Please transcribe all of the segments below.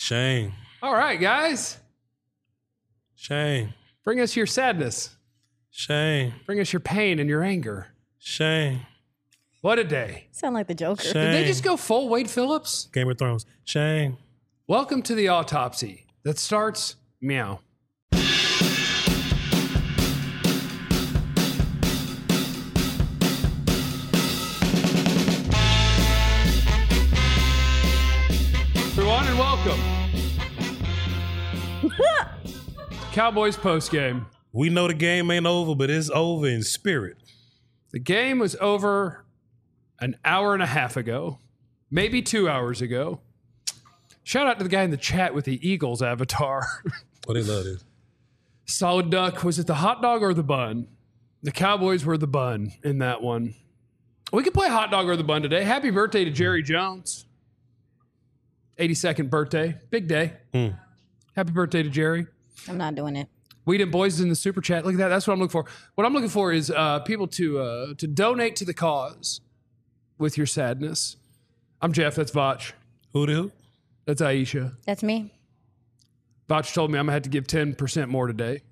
Shame. All right, guys. Shame. Bring us your sadness. Shame. Bring us your pain and your anger. Shame. What a day. Sound like the Joker. Shame. Did they just go full Wade Phillips? Game of Thrones. Shame. Welcome to the autopsy that starts meow. Everyone, and welcome. Cowboys postgame. We know the game ain't over, but it's over in spirit. The game was over an hour and a half ago, maybe 2 hours ago. Shout out to the guy in the chat with the Eagles avatar. Oh, they love this. Solid duck. Was it the hot dog or the bun? The Cowboys were the bun in that one. We could play hot dog or the bun today. Happy birthday to Jerry Jones. 82nd birthday. Big day. Happy birthday to Jerry. I'm not doing it. Weedon Boys is in the super chat. Look at that. That's what I'm looking for. What I'm looking for is people to donate to the cause with your sadness. I'm Jeff. That's Vach. Who? That's Aisha. That's me. Vach told me I'm going to have to give 10% more today.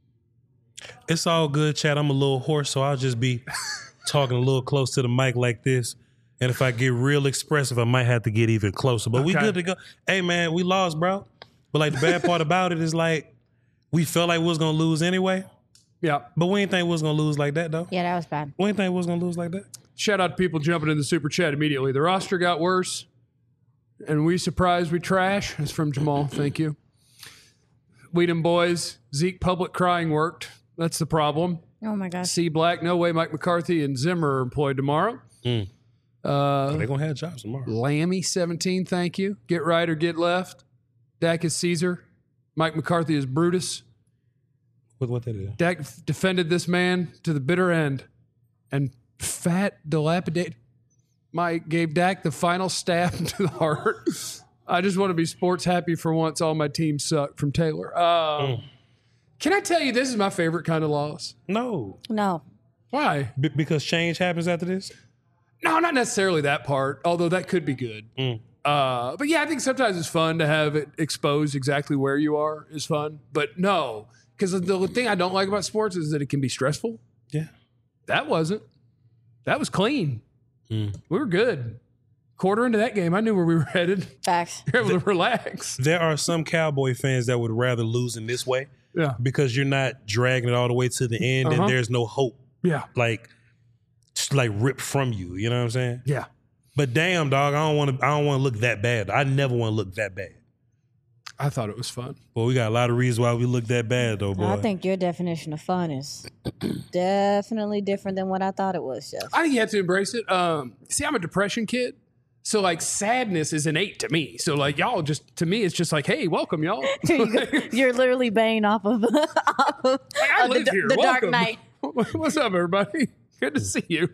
It's all good, Chad. I'm a little hoarse, so I'll just be talking a little close to the mic like this. And if I get real expressive, I might have to get even closer. But we good to go. Hey, man, we lost, bro. But, like, the bad part about it is, like, we felt like we was going to lose anyway. Yeah. But we didn't think we was going to lose like that, though. Yeah, that was bad. We didn't think we was going to lose like that. Shout out to people jumping in the super chat immediately. The roster got worse, and we surprised we trash. That's from Jamal. Thank you. Weedon Boys, Zeke public crying worked. That's the problem. Oh, my gosh. C Black, no way Mike McCarthy and Zimmer are employed tomorrow. They're going to have jobs tomorrow. Lammy, 17, thank you. Get right or get left. Dak is Caesar. Mike McCarthy is Brutus. What that is? Dak defended this man to the bitter end. And fat, dilapidated Mike gave Dak the final stab to the heart. I just want to be sports happy for once. All my teams suck from Taylor. Can I tell you this is my favorite kind of loss? No. Why? Because change happens after this? No, not necessarily that part, although that could be good. But yeah, I think sometimes it's fun to have it expose exactly where you are is fun. But no, because the thing I don't like about sports is that it can be stressful. Yeah. That wasn't. That was clean. We were good. Quarter into that game, I knew where we were headed. Facts. You're able to relax. There are some Cowboy fans that would rather lose in this way. Yeah. Because you're not dragging it all the way to the end and there's no hope. Yeah. Like ripped from you. You know what I'm saying? Yeah. But damn, dog, I don't want to look that bad. I never want to look that bad. I thought it was fun. Well, we got a lot of reasons why we look that bad, though, boy. I think your definition of fun is definitely different than what I thought it was, Jeff. I think you have to embrace it. See, I'm a depression kid. So, like, sadness is innate to me. So, like, y'all just, to me, it's just like, hey, welcome, y'all. You're literally baying off of, I live here. the Dark Welcome. Knight. What's up, everybody? Good to see you.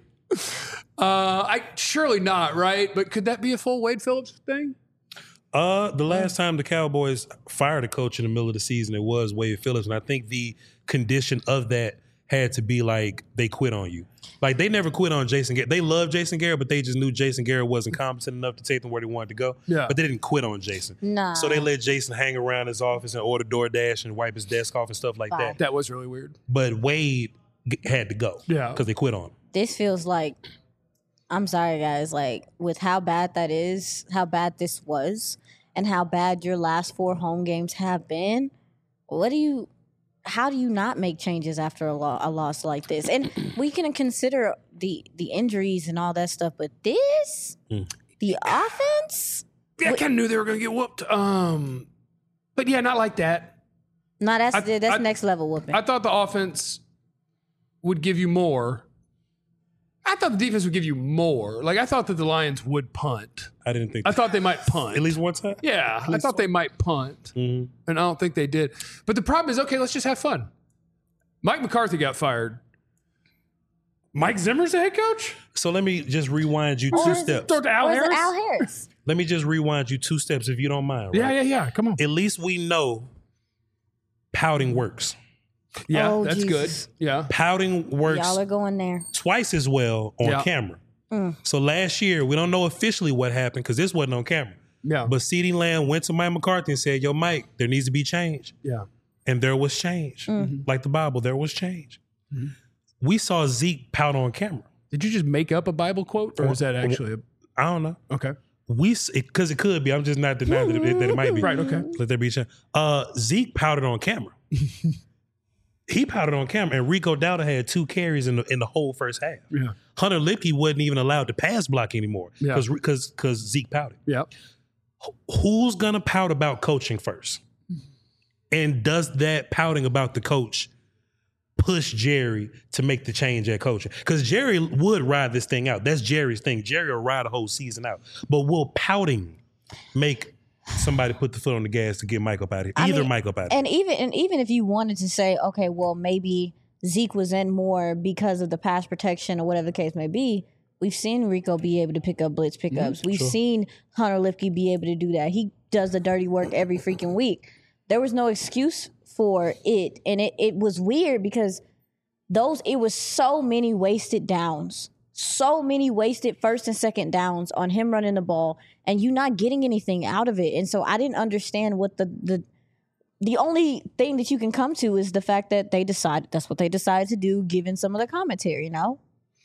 Surely not, right? But could that be a full Wade Phillips thing? The last time the Cowboys fired a coach in the middle of the season, it was Wade Phillips. And I think the condition of that had to be like they quit on you. Like they never quit on Jason Garrett. They loved Jason Garrett, but they just knew Jason Garrett wasn't competent enough to take them where they wanted to go. Yeah. But they didn't quit on Jason. Nah. So they let Jason hang around his office and order DoorDash and wipe his desk off and stuff like that. That was really weird. But Wade had to go. Yeah. Because they quit on him. This feels like, I'm sorry, guys, like with how bad that is, how bad this was, and how bad your last 4 home games have been, how do you not make changes after a loss like this? And we can consider the injuries and all that stuff, but this, the offense? Yeah, I kind of knew they were going to get whooped. But yeah, not like that. No, that's next level whooping. I thought the offense would give you more. I thought the defense would give you more. Like, I thought that the Lions would punt. I didn't think I thought they might punt. At least one time? Yeah, I thought they might punt. And I don't think they did. But the problem is, okay, let's just have fun. Mike McCarthy got fired. Mike Zimmer's the head coach? So let me just rewind you 2 steps. Throw it to Al Harris? Al Harris? Let me just rewind you 2 steps if you don't mind. Right? Yeah. Come on. At least we know pouting works. Yeah, Oh, that's Jesus. good. Yeah. Pouting works Y'all are going there. twice as well on Yeah. camera. So last year, we don't know officially what happened because this wasn't on camera. Yeah. But CeeDee Lamb went to Mike McCarthy and said, yo, Mike, there needs to be change. Yeah. And there was change. Like the Bible, there was change. We saw Zeke pout on camera. Did you just make up a Bible quote, or is that actually I don't know. okay? Because it could be. I'm just not denying that it might be. Right, okay. Let there be change. Zeke pouted on camera. He pouted on camera, and Rico Dowdle had 2 carries in the whole first half. Yeah. Hunter Lipke wasn't even allowed to pass block anymore because Zeke pouted. Yeah. Who's gonna pout about coaching first? And does that pouting about the coach push Jerry to make the change at coaching? Because Jerry would ride this thing out. That's Jerry's thing. Jerry will ride the whole season out. But will pouting make somebody put the foot on the gas to get Mike up out of here? Mike up out of here. And even if you wanted to say, okay, well, maybe Zeke was in more because of the pass protection or whatever the case may be, we've seen Rico be able to pick up blitz pickups. We've seen Hunter Lipke be able to do that. He does the dirty work every freaking week. There was no excuse for it. And it was weird because it was so many wasted downs. So many wasted first and second downs on him running the ball and you not getting anything out of it. And so I didn't understand what the only thing that you can come to is the fact that that's what they decided to do given some of the commentary, you know?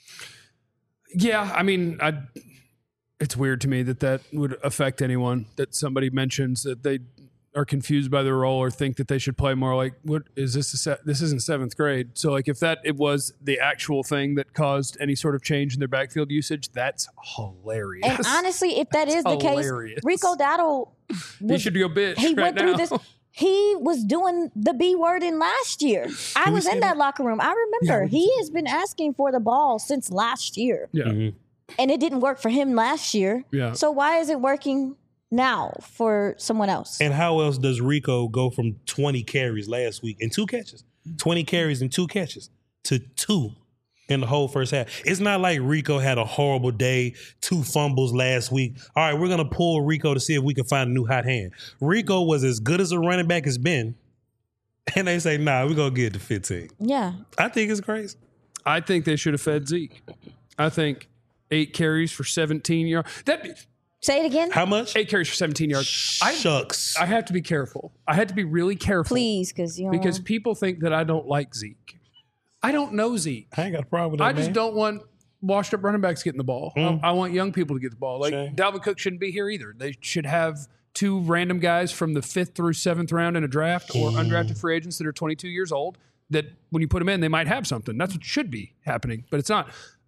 Yeah, I mean, it's weird to me that would affect anyone, that somebody mentions that they are confused by their role or think that they should play more. Like, what is this? This isn't 7th grade. So like if it was the actual thing that caused any sort of change in their backfield usage, that's hilarious. And honestly, if that is the case, Rico Dowdle, he should go bitch. He right went through now. this. He was doing the B word in last year. I was in that locker room. I remember. He has been asking for the ball since last year. Yeah. And it didn't work for him last year. Yeah. So why is it working now for someone else? And how else does Rico go from 20 carries last week and 2 catches, 20 carries and 2 catches to 2 in the whole first half? It's not like Rico had a horrible day, 2 fumbles last week. All right, we're going to pull Rico to see if we can find a new hot hand. Rico was as good as a running back has been. And they say, nah, we're going to get to 15. Yeah. I think it's crazy. I think they should have fed Zeke. I think 8 carries for 17 yards. Say it again. How much? 8 carries for 17 yards. Shucks. I have to be careful. I had to be really careful. Please, because people think that I don't like Zeke. I don't know Zeke. I ain't got a problem with that, I just don't want washed up running backs getting the ball. I want young people to get the ball. Like Dalvin Cook shouldn't be here either. They should have 2 random guys from the 5th through 7th round in a draft or undrafted free agents that are 22 years old that when you put them in, they might have something. That's what should be happening, but it's not.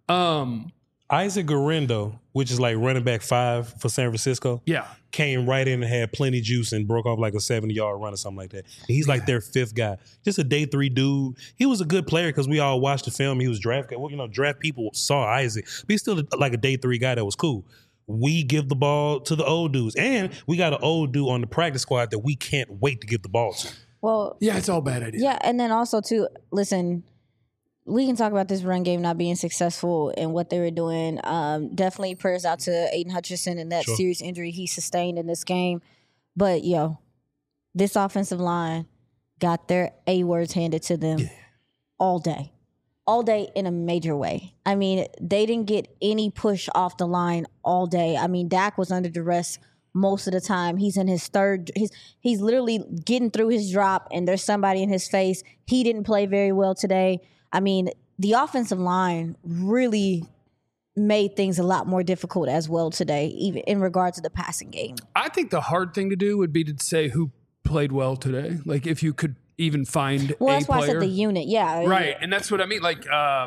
Isaac Garendo, which is like running back 5 for San Francisco, came right in and had plenty juice and broke off like a 70-yard run or something like that. And he's like their 5th guy. Just a day 3 dude. He was a good player because we all watched the film. He was drafted. Well, draft people saw Isaac. But he's still like a day 3 guy that was cool. We give the ball to the old dudes. And we got an old dude on the practice squad that we can't wait to give the ball to. Well, yeah, it's all bad ideas. Yeah, and then also, too, listen, we can talk about this run game not being successful and what they were doing. Definitely prayers out to Aiden Hutchinson and that serious injury he sustained in this game. But, this offensive line got their A-words handed to them all day. All day in a major way. I mean, they didn't get any push off the line all day. I mean, Dak was under duress most of the time. He's in his third. He's literally getting through his drop, and there's somebody in his face. He didn't play very well today. I mean, the offensive line really made things a lot more difficult as well today, even in regard to the passing game. I think the hard thing to do would be to say who played well today. Like if you could even find a player. That's why I said the unit. Yeah. Right. And that's what I mean. Like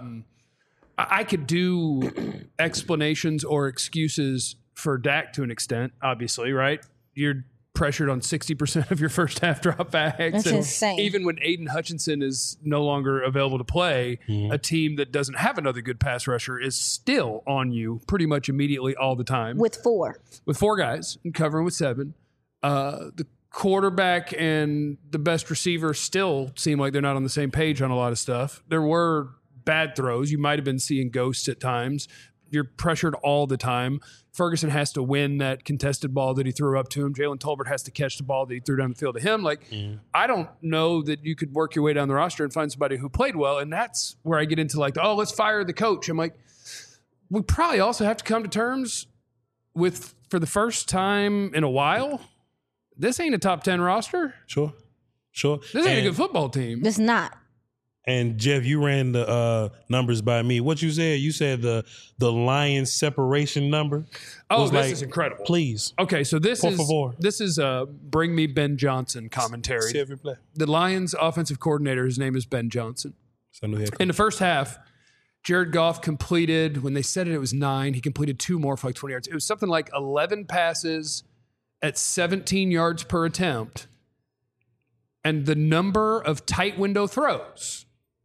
I could do explanations or excuses for Dak to an extent, obviously, right? You're pressured on 60% of your first half dropbacks. That's insane. Even when Aiden Hutchinson is no longer available to play, a team that doesn't have another good pass rusher is still on you pretty much immediately all the time. With 4 guys and covering with 7. The quarterback and the best receiver still seem like they're not on the same page on a lot of stuff. There were bad throws. You might have been seeing ghosts at times. You're pressured all the time. Ferguson has to win that contested ball that he threw up to him. Jalen Tolbert has to catch the ball that he threw down the field to him. Like, I don't know that you could work your way down the roster and find somebody who played well. And that's where I get into like, let's fire the coach. I'm like, we probably also have to come to terms for the first time in a while, this ain't a top 10 roster. Sure. This ain't a good football team. It's not. And Jeff, you ran the numbers by me. What you said? You said the Lions separation number. Oh, this is incredible. Please. Okay, so this Por is favor. Bring Me Ben Johnson commentary. See every play. The Lions offensive coordinator, his name is Ben Johnson. In the first half, Jared Goff completed, when they said it was 9, he completed 2 more for like 20 yards. It was something like 11 passes at 17 yards per attempt. And the number of tight window throws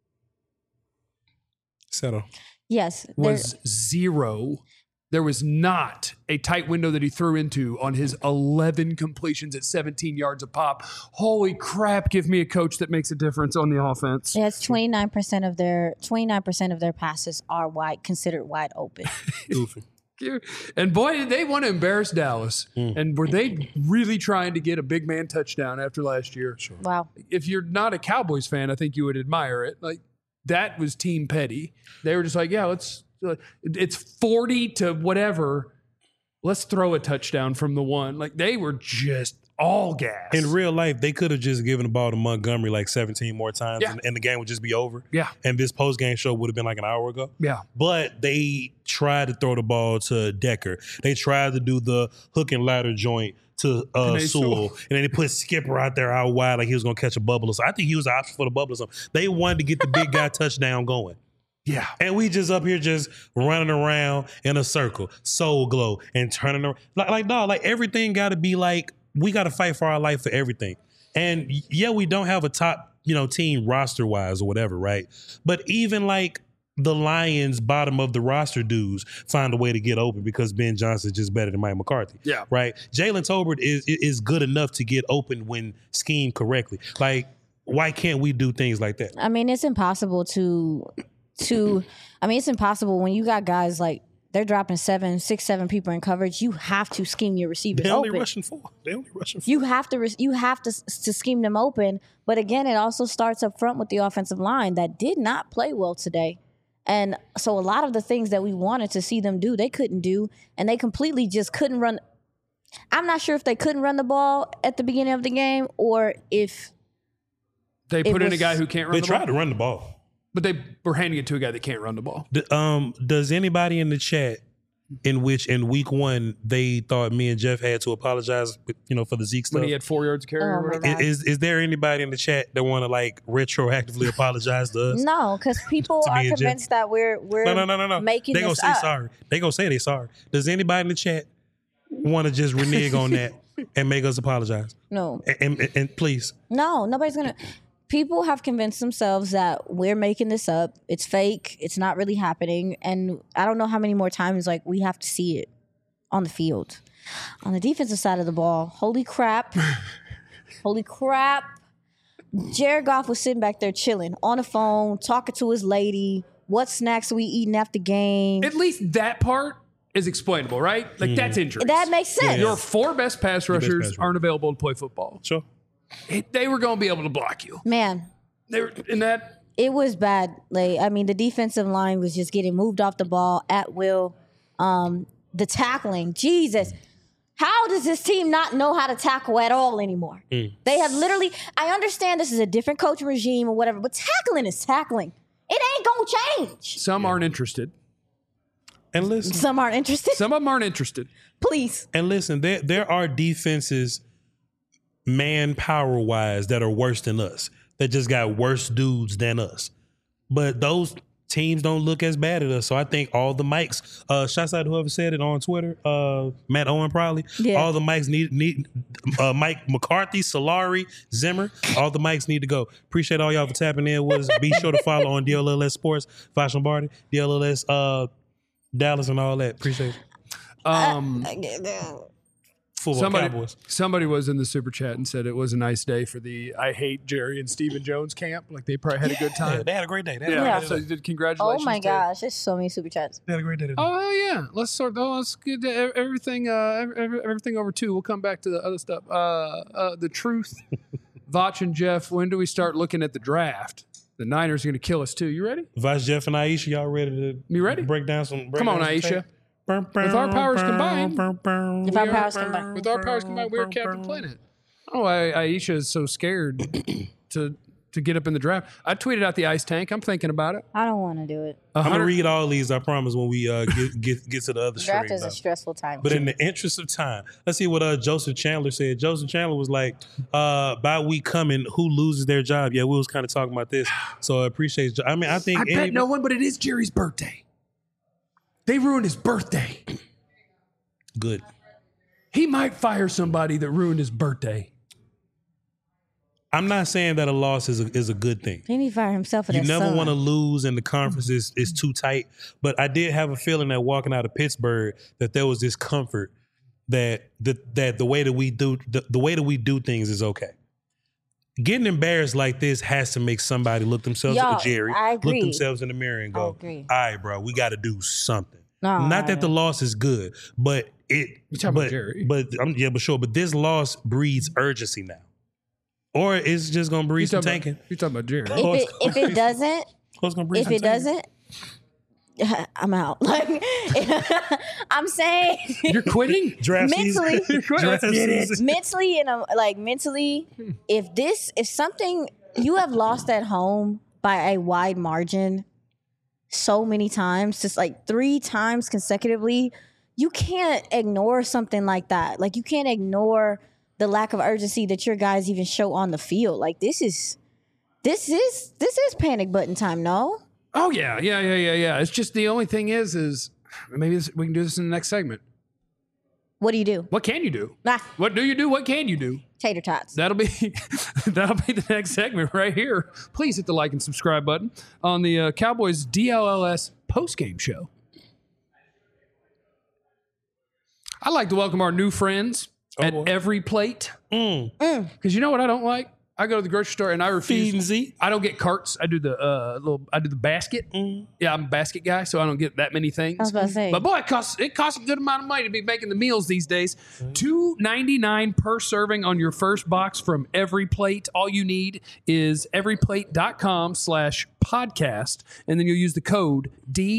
settle Yes. was 0. There was not a tight window that he threw into on his 11 completions at 17 yards a pop. Holy crap, give me a coach that makes a difference on the offense. Yes, 29% of their passes are considered wide open. goofy. And boy, did they want to embarrass Dallas. And were they really trying to get a big man touchdown after last year? Sure. Wow. If you're not a Cowboys fan, I think you would admire it. Like, that was Team Petty. They were just like, yeah, it's 40 to whatever. Let's throw a touchdown from the one. Like, they were just all gas. In real life, they could have just given the ball to Montgomery like 17 more times Yeah. and the game would just be over. Yeah. And this post-game show would have been like an hour ago. Yeah. But they tried to throw the ball to Decker. They tried to do the hook and ladder joint to Sewell. And then they put Skipper out there out wide like he was going to catch a bubble. So I think he was the option for the bubble or something. They wanted to get the big guy touchdown going. Yeah. And we just up here just running around in a circle, soul glow, and turning around. Like everything got to be like, we got to fight for our life for everything. And yeah, we don't have a top, team roster wise or whatever, right? But even like the Lions bottom of the roster dudes find a way to get open because Ben Johnson is just better than Mike McCarthy. Yeah. Right. Jalen Tolbert is good enough to get open when schemed correctly. Like, why can't we do things like that? I mean, it's impossible it's impossible when you got guys like they're dropping 7 people in coverage. You have to scheme your receivers They only open. rushing 4. You have to scheme them open. But again, it also starts up front with the offensive line that did not play well today. And so a lot of the things that we wanted to see them do, they couldn't do. And they completely just couldn't run. I'm not sure if they couldn't run the ball at the beginning of the game or if They put in a guy who can't run the ball. They tried to run the ball. But they were handing it to a guy that can't run the ball. Does anybody in the chat in week 1 they thought me and Jeff had to apologize, for the Zeke stuff? When he had 4 yards to carry or whatever? God. Is there anybody in the chat that want to like retroactively apologize to us? no, because people To are me and Jeff? convinced that we're No. making They gonna this say up. sorry. They gonna say they sorry. Does anybody in the chat want to just renege on that and make us apologize? No. And please. No, nobody's gonna. People have convinced themselves that we're making this up. It's fake. It's not really happening. And I don't know how many more times like we have to see it on the field. On the defensive side of the ball, holy crap. Jared Goff was sitting back there chilling on the phone, talking to his lady. What snacks are we eating after game? At least that part is explainable, right? Like, that's injuries. That makes sense. Your 4 best pass rushers aren't available to play football. Sure. They were going to be able to block you. Man, They were in that. it was bad. Like, I mean, the defensive line was just getting moved off the ball at will. The tackling, Jesus. How does this team not know how to tackle at all anymore? They have literally, I understand this is a different coaching regime or whatever, but tackling is tackling. It ain't going to change. Some aren't interested. And listen. Some aren't interested. Some of them aren't interested. Please. And listen, there are defenses manpower wise that are worse than us, that just got worse dudes than us. But those teams don't look as bad at us. So I think all the mics, shouts out to whoever said it on Twitter, Matt Owen probably. Yeah. All the mics need Mike McCarthy, Solari, Zimmer, all the mics need to go. Appreciate all y'all for tapping in with us. Be sure to follow on DLLS Sports, Fox Lombardi, DLLS Dallas and all that. Appreciate it. Football Cowboys. Somebody was in the super chat and said it was a nice day for the I Hate Jerry and Stephen Jones camp. Like, they probably had a good time. Yeah, they had a great day. So you did congratulations. Oh my to- gosh, there's so many super chats. They had a great day today. Oh yeah, let's get everything everything over too. We'll come back to the other stuff. The truth, Vach and Jeff. When do we start looking at the draft? The Niners are going to kill us too. You ready? Vice Jeff and Aisha, y'all ready to You ready? break down some? Come on, Aisha. With our powers combined, If our powers combine. with our powers combined, we're Captain Planet. Oh, Aisha is so scared to get up in the draft. I tweeted out the ice tank. I'm thinking about it. I don't want to do it. I'm gonna read all these. I promise when we get to the other Draft stream. is a stressful time. But in the interest of time, let's see what Joseph Chandler said. Joseph Chandler was like, "By week coming, who loses their job?" Yeah, we was kind of talking about this. So I appreciate. I mean, I think I bet no one, but it is Jerry's birthday. They ruined his birthday. Good. He might fire somebody that ruined his birthday. I'm not saying that a loss is a good thing. He need to fire himself for You that never son. want to lose, and the conference is too tight. But I did have a feeling that walking out of Pittsburgh, that there was this comfort that the way that we do the way that we do things is okay. Getting embarrassed like this has to make somebody look themselves Jerry, I agree. look themselves in the mirror and go, agree. "All right, bro, we got to do something." No, Not that the loss is good, but You're talking about Jerry. But but sure. But this loss breeds urgency now, or it's just gonna breed some tanking. You're talking about Jerry. If it doesn't, It's gonna breed if some it tanking. doesn't, I'm out. Like I'm saying, You're quitting? Draft mentally, season. Draft season. mentally, mentally, if something you have lost at home by a wide margin so many times, just like 3 times consecutively, you can't ignore something like that. Like you can't ignore the lack of urgency that your guys even show on the field. Like this is panic button time. No. Oh, yeah. It's just the only thing is maybe we can do this in the next segment. What do you do? What can you do? Ah, What do you do? What can you do? tater tots. That'll be the next segment right here. Please hit the like and subscribe button on the Cowboys DLLS postgame show. I'd like to welcome our new friends at Every Plate. Because you know what I don't like? I go to the grocery store and I refuse. Fiendzy. I don't get carts. I do the basket. Yeah, I'm a basket guy, so I don't get that many things. I was about to say. But boy, it costs a good amount of money to be making the meals these days. $2.99 per serving on your first box from Every Plate. All you need is everyplate.com/podcast, and then you'll use the code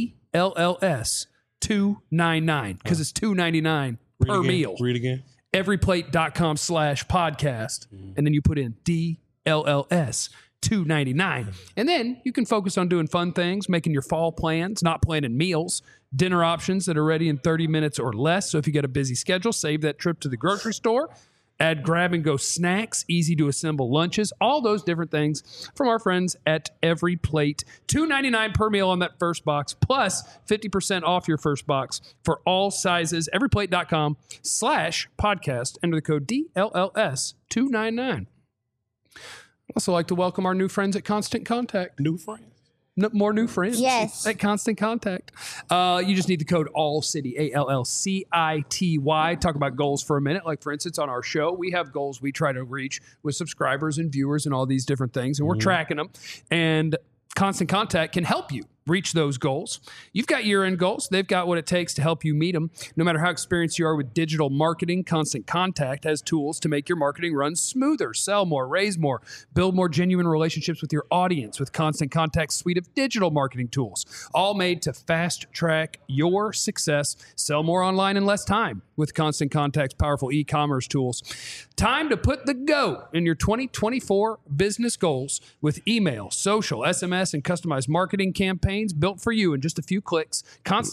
DLLS299 because it's $2.99 per meal. Read again. Everyplate.com/podcast, and then you put in DLLS 299, and then you can focus on doing fun things, making your fall plans, not planning meals, dinner options that are ready in 30 minutes or less. So if you got a busy schedule, save that trip to the grocery store. Add grab-and-go snacks, easy-to-assemble lunches, all those different things from our friends at Every Plate. $2.99 per meal on that first box, plus 50% off your first box for all sizes. Everyplate.com/podcast. Enter the code DLLS299. I'd also like to welcome our new friends at Constant Contact. New friends. More new friends. Yes. At Constant Contact. You just need the code ALLCITY, ALLCITY. Talk about goals for a minute. Like, for instance, on our show, we have goals we try to reach with subscribers and viewers and all these different things, and we're tracking them. And Constant Contact can help you reach those goals. You've got year-end goals. They've got what it takes to help you meet them. No matter how experienced you are with digital marketing, Constant Contact has tools to make your marketing run smoother, sell more, raise more, build more genuine relationships with your audience with Constant Contact's suite of digital marketing tools, all made to fast-track your success. Sell more online in less time with Constant Contact's powerful e-commerce tools. Time to put the go in your 2024 business goals with email, social, SMS, and customized marketing campaigns built for you in just a few clicks.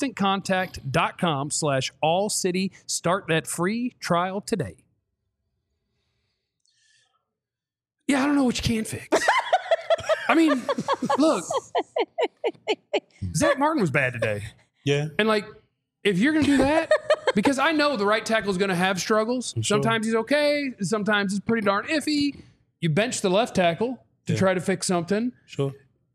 ConstantContact.com/AllCity. Start that free trial today. Yeah, I don't know what you can fix. I mean, look, Zach Martin was bad today. Yeah. And like, if you're going to do that, because I know the right tackle is going to have struggles. Sure. Sometimes he's okay. Sometimes it's pretty darn iffy. You bench the left tackle to try to fix something. Sure.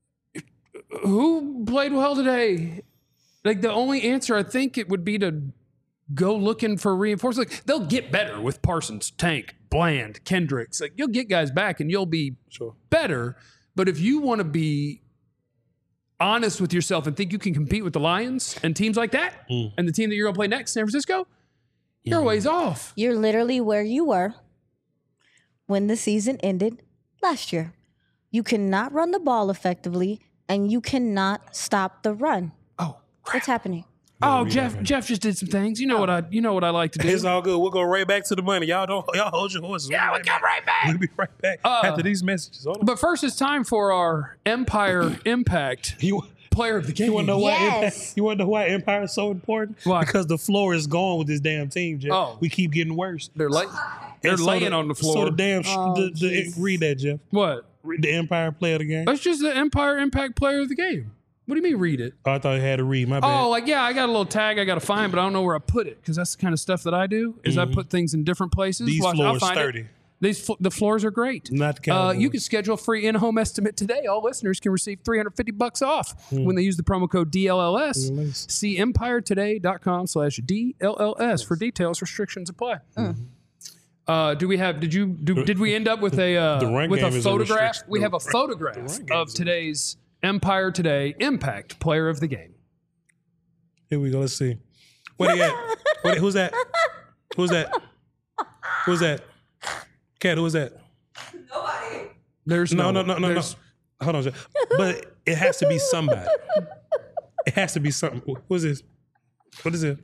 Who played well today? Like, the only answer I think it would be to go looking for reinforcements. Like, they'll get better with Parsons, Tank, Bland, Kendricks. Like, you'll get guys back and you'll be better. But if you want to be honest with yourself and think you can compete with the Lions and teams like that, and the team that you're going to play next, San Francisco, you're a ways off. You're literally where you were when the season ended last year. You cannot run the ball effectively, and you cannot stop the run. Oh, crap. What's happening? Oh, Jeff just did some things. You know what I like to do. It's all good. We'll go right back to the money. Y'all hold your horses. Yeah, we'll come right back. We'll be right back after these messages. Hold on. But first, it's time for our Empire Impact Player of the Game. You want to know why? Yes. You want to know why Empire is so important? Why? Because the floor is gone with this damn team, Jeff. Oh. We keep getting worse. They're laying on the floor. So the damn. Read that, Jeff. What? Read the Empire Player of the Game. That's just the Empire Impact Player of the Game. What do you mean read it? Oh, I thought I had to read. My bad. Oh, like, yeah, I got a little tag I got to find, but I don't know where I put it because that's the kind of stuff that I do is I put things in different places. These I'll floors find sturdy. it. The floors are great. Not the Cowboys. You can schedule a free in-home estimate today. All listeners can receive $350 off when they use the promo code DLLS. See empiretoday.com/DLLS for details. Restrictions apply. Did we end up with a run game is a photograph? restriction. We have a photograph of today's Empire Today Impact Player of the Game. Here we go. Let's see. Where they at? Who's that? Who's that? Who's that? Cat, who is that? Nobody. There's no. Hold on, Jeff. But it has to be somebody. It has to be something. Who is this? What is it?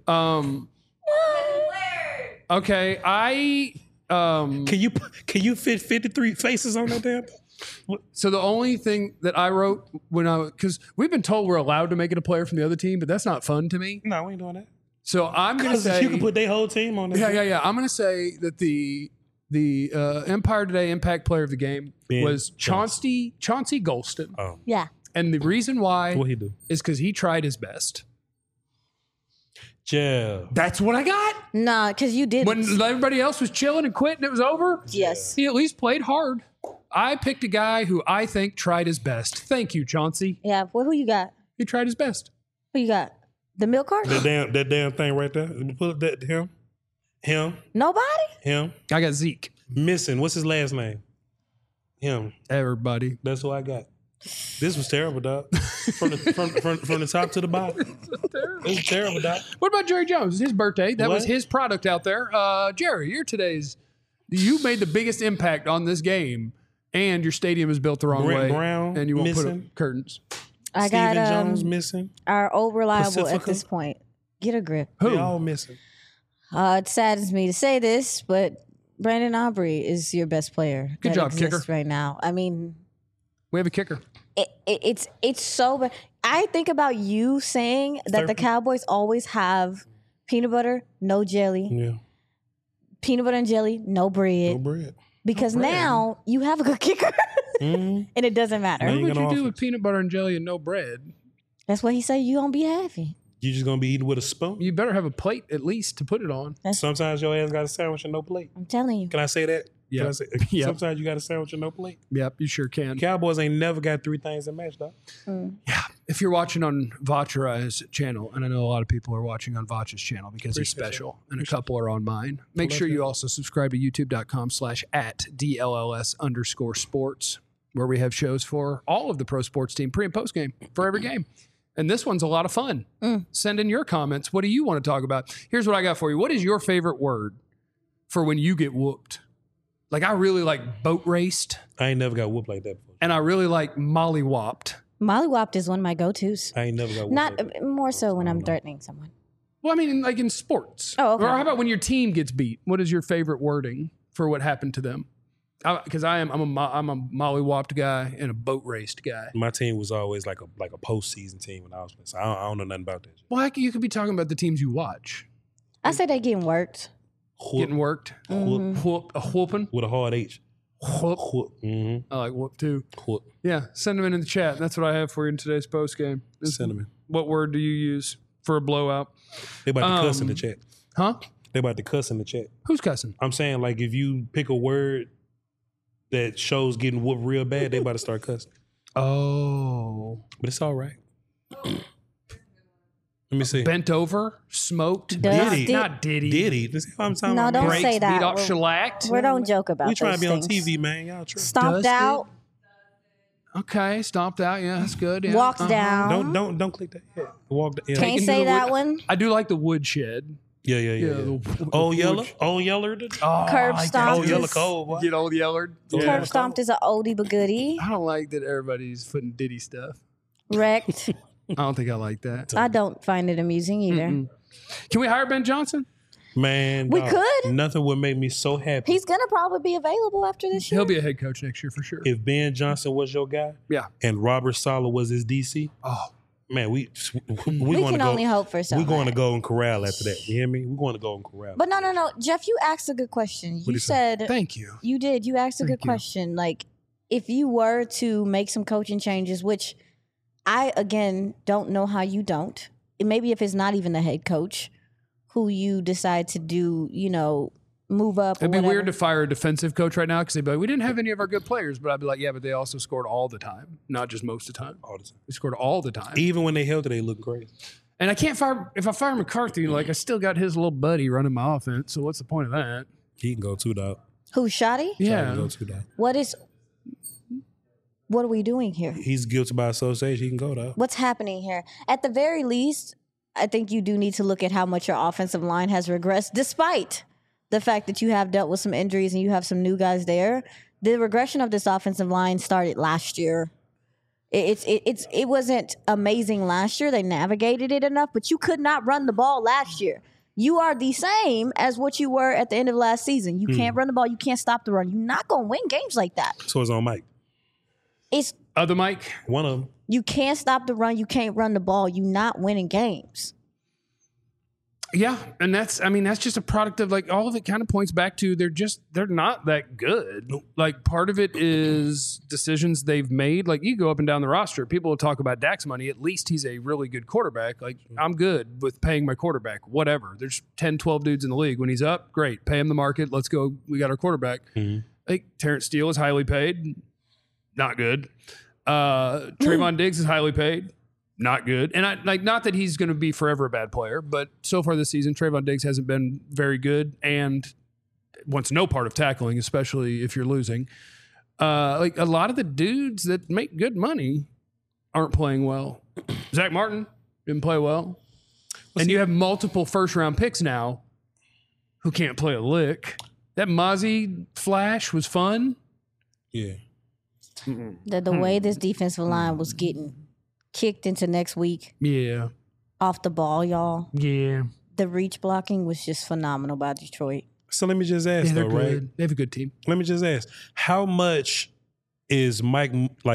Okay, Can you fit 53 faces on that damn? So the only thing that I wrote because we've been told we're allowed to make it a player from the other team, but that's not fun to me. No, we ain't doing that. So I'm going to say you can put their whole team on there. Yeah. I'm going to say that the Empire Today Impact Player of the Game was Chauncey Golston. Oh. Yeah. And the reason why What he do? is because he tried his best. Yeah. That's what I got. Nah, because you didn't. When everybody else was chilling and quitting, it was over. Yes. He at least played hard. I picked a guy who I think tried his best. Thank you, Chauncey. Yeah. Well, who you got? He tried his best. Who you got? The milk cart? That damn thing right there. Let me pull up that him. Nobody? Him. I got Zeke. Missing. What's his last name? Him. Everybody. That's who I got. This was terrible, dog. From the top to the bottom. It was terrible, dog. What about Jerry Jones? It's his birthday. That was What? his product out there. Jerry, you made the biggest impact on this game, and your stadium is built the wrong Brent way. Brown and you won't put missing. up curtains. I Steven got Jones missing. our old reliable at Pacifica? this point. Get a grip. They all missing. It saddens me to say this, but Brandon Aubrey is your best player. Good that job, exists kicker. right now. I mean, We have a kicker. it's so bad. I think about you saying that the Cowboys always have peanut butter, no jelly, Yeah. peanut butter and jelly, no bread. No bread. Because bread. now you have a good kicker, Mm-hmm. and it doesn't matter. Now What you would gonna you do offer- with peanut butter and jelly and no bread? That's what he said. You gonna be happy. You just gonna be eating with a spoon. You better have a plate at least to put it on. Sometimes your ass got a sandwich and no plate. I'm telling you. Can I say that? Yep. Can I say, Yep. Sometimes you got a sandwich and no plate. Yep, you sure can. Cowboys ain't never got three things that match, dog. Yeah. If you're watching on Vacharai's channel, and I know a lot of people are watching on Vach's channel because he's Appreciate special, and a couple are on mine, make sure you also subscribe to youtube.com/@DLLS_sports, where we have shows for all of the pro sports team pre and post game for every game. And this one's a lot of fun. Send in your comments. What do you want to talk about? Here's what I got for you. What is your favorite word for when you get whooped? Like, I really like boat raced, I ain't never got whooped like that before. and I really like mollywopped. Mollywopped is one of my go-tos. I ain't never got whooped Not like that. more so when I'm threatening someone. Well, I mean, like in sports. Oh, okay. Or how about when your team gets beat? What is your favorite wording for what happened to them? Because I'm a mollywopped guy and a boat raced guy. My team was always like a postseason team when I was playing. So I don't know nothing about that. Well, you could be talking about the teams you watch. I say they getting worked. Getting worked. Whoop. A whooping. With a hard H. Whoop. Whoop. Mm-hmm. I like whoop too. Whoop. Yeah, send them in the chat. That's what I have for you in today's post game. Cinnamon. What word do you use for a blowout? They about to cuss in the chat. Huh? They about to cuss in the chat. Who's cussing? I'm saying, like, if you pick a word that shows getting whooped real bad, they about to start cussing. Oh. But it's all right. Let me see. Bent over, smoked. Dusty. Not Diddy. Diddy. This is what I'm talking No, about. don't man. say that. Beat off We're- shellacked. We don't joke about We trying to those be on things. TV, man. Y'all true. Stomped Dusty. out, Okay, stomped out. Yeah, that's good. Yeah. walked Uh-huh. down. Don't click that. Yeah. Walk. Yeah. Can't into say the that wood- one. I do like the woodshed. Yeah. the Old Yeller. wood- Old Yeller. Oh, Curb I like stomp. that. Old Yeller is- cold. Boy. Get old Yeller. Curb stomped is an oldie but goodie. I don't like that everybody's putting Diddy stuff. Wrecked. I don't think I like that. I don't find it amusing either. Can we hire Ben Johnson? Man, We dog, could. Nothing would make me so happy. He's gonna probably be available after this year. He'll be a head coach next year for sure. If Ben Johnson was your guy, Yeah. and Robert Saleh was his DC, Oh, man, we we can only hope for We're something. going to Golden Corral after that. You hear me? We're going to Golden Corral. But no, Jeff, you asked a good question. You you said thank you. you did. You asked a Thank good you. question. Like, if you were to make some coaching changes, which I again don't know how you don't. Maybe if it's not even the head coach who you decide to do, move up. It'd be or weird whatever. to fire a defensive coach right now because they'd be like, we didn't have any of our good players. But I'd be like, yeah, but they also scored all the time, not just most of the time. All the time. They scored all the time. Even when they held it, they look great. And I can't fire, if I fire McCarthy, like I still got his little buddy running my offense. So what's the point of that? He can go too, dog. Who's Shoddy? He Yeah. can go too, dog. What are we doing here? He's guilty by association. He can go, dog. What's happening here? At the very least, I think you do need to look at how much your offensive line has regressed, despite the fact that you have dealt with some injuries and you have some new guys there. The regression of this offensive line started last year. It wasn't amazing last year. They navigated it enough, but you could not run the ball last year. You are the same as what you were at the end of last season. You can't run the ball. You can't stop the run. You're not going to win games like that. So it's on Mike. It's Other Mike? One of them. you can't stop the run. You can't run the ball. You're not winning games. Yeah. And that's just a product of like all of it kind of points back to they're not that good. Like part of it is decisions they've made. Like you go up and down the roster, people will talk about Dak's money. At least he's a really good quarterback. Like I'm good with paying my quarterback, whatever. There's 10, 12 dudes in the league. When he's up, great. Pay him the market. Let's go. We got our quarterback. Like Terrence Steele is highly paid. Not good. Trayvon Diggs is highly paid. Not good. And I like not that he's going to be forever a bad player, but so far this season, Trayvon Diggs hasn't been very good and wants no part of tackling, especially if you're losing. Like a lot of the dudes that make good money aren't playing well. Zach Martin didn't play well. And you have multiple first-round picks now who can't play a lick. That Mozzie flash was fun. Yeah. The way this defensive line was getting kicked into next week Yeah. off the ball, y'all. Yeah. The reach blocking was just phenomenal by Detroit. So let me just ask, Yeah, they're though, right? good. They have a good team. Let me just ask, how much is Mike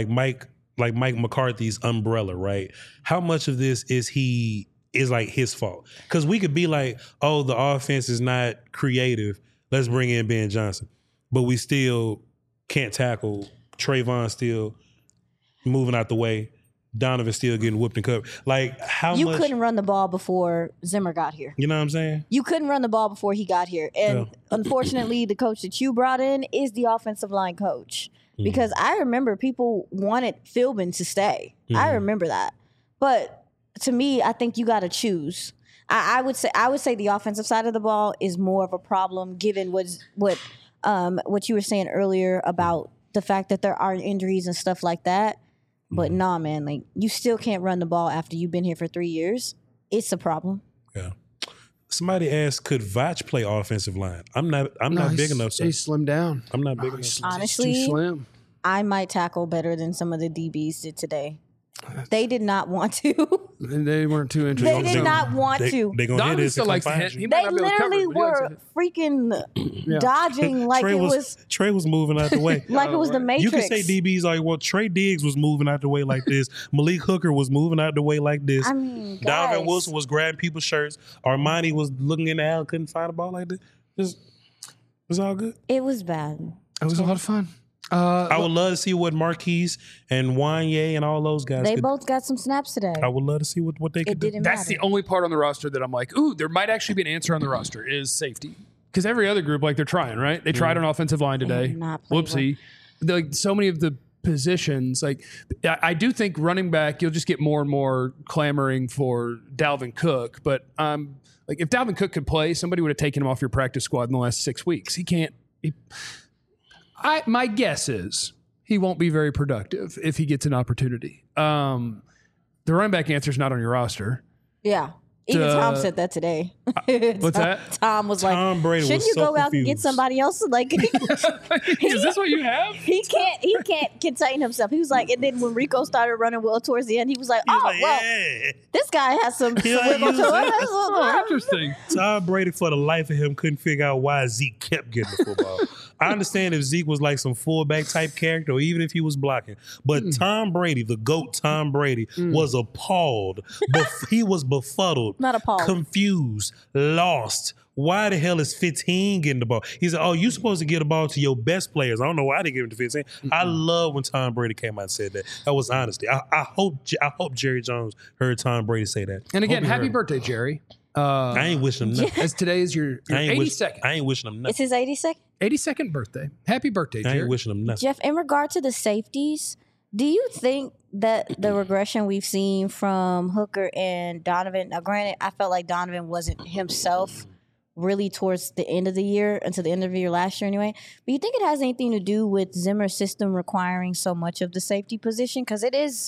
McCarthy's umbrella, right? How much of this is like his fault? Because we could be like, oh, the offense is not creative. Let's bring in Ben Johnson. But we still can't tackle. Trayvon still moving out the way. Donovan still getting whooped and covered. Like, how You much? couldn't run the ball before Zimmer got here. You know what I'm saying? You couldn't run the ball before he got here. And unfortunately, the coach that you brought in is the offensive line coach. Because I remember people wanted Philbin to stay. I remember that. But to me, I think you got to choose. I would say the offensive side of the ball is more of a problem given what you were saying earlier about the fact that there are injuries and stuff like that. But nah, man, like you still can't run the ball after you've been here for 3 years. It's a problem. Yeah. Somebody asked, could Vach play offensive line? I'm not big enough, sir. He's slimmed down. I'm not big enough. Honestly, He's too slim. I might tackle better than some of the DBs did today. They did not want to. And they weren't too They interested. did not want to. They gonna hit Donovan this still to likes to come hit. find He you. might They not be able to cover literally it, but he likes to were hit. freaking dodging like Trey it was Trey was moving out the way. like it was the Matrix. You can say DBs like, well, Trey Diggs was moving out the way like this. Malik Hooker was moving out the way like this. I mean, Donovan guys. Wilson was grabbing people's shirts. Armani was looking in the alley, couldn't find a ball like this. It was all good. It was bad. It was a lot of fun. I would love to see what Marquise and Wanye and all those guys They could. both got some snaps today. I would love to see what they It could do. didn't That's matter. the only part on the roster that I'm like, ooh, there might actually be an answer on the roster is safety. Because every other group, like they're trying, right? They tried on offensive line today. did not play Whoopsie. Like so many of the positions, like I do think running back, you'll just get more and more clamoring for Dalvin Cook. But like if Dalvin Cook could play, somebody would have taken him off your practice squad in the last 6 weeks. He can't. My guess is he won't be very productive if he gets an opportunity. The running back answer is not on your roster. Yeah. Even Tom said that today. What's that? Tom was Tom like, Brady shouldn't was you so go out and get confused. somebody else? Like, Is this what you have? he can't contain himself. He was like, and then when Rico started running well towards the end, he was like, He was oh, like, well, yeah. this guy has some He like wiggle to used him. it. That's Oh, interesting. Tom Brady, for the life of him, couldn't figure out why Zeke kept getting the football. I understand if Zeke was like some fullback type character, or even if he was blocking. But Tom Brady, the GOAT Tom Brady, was appalled. He was befuddled. Not appalled. Confused. Lost. Why the hell is 15 getting the ball? He said, oh, you supposed to get the ball to your best players. I don't know why they give him to 15. I love when Tom Brady came out and said that. That was honesty. I hope Jerry Jones heard Tom Brady say that. And again, Hope he happy heard him. birthday, Jerry. I ain't wishing him nothing. As today is your I ain't 82nd. I ain't wishing him It's nothing. his 82nd. 82nd birthday. Happy birthday, I Jerry. ain't wishing him nothing. Jeff, in regard to the safeties, do you think that the regression we've seen from Hooker and Donovan, now granted, I felt like Donovan wasn't himself really towards the end of the year, until the end of the year last year anyway, but you think it has anything to do with Zimmer's system requiring so much of the safety position? Because his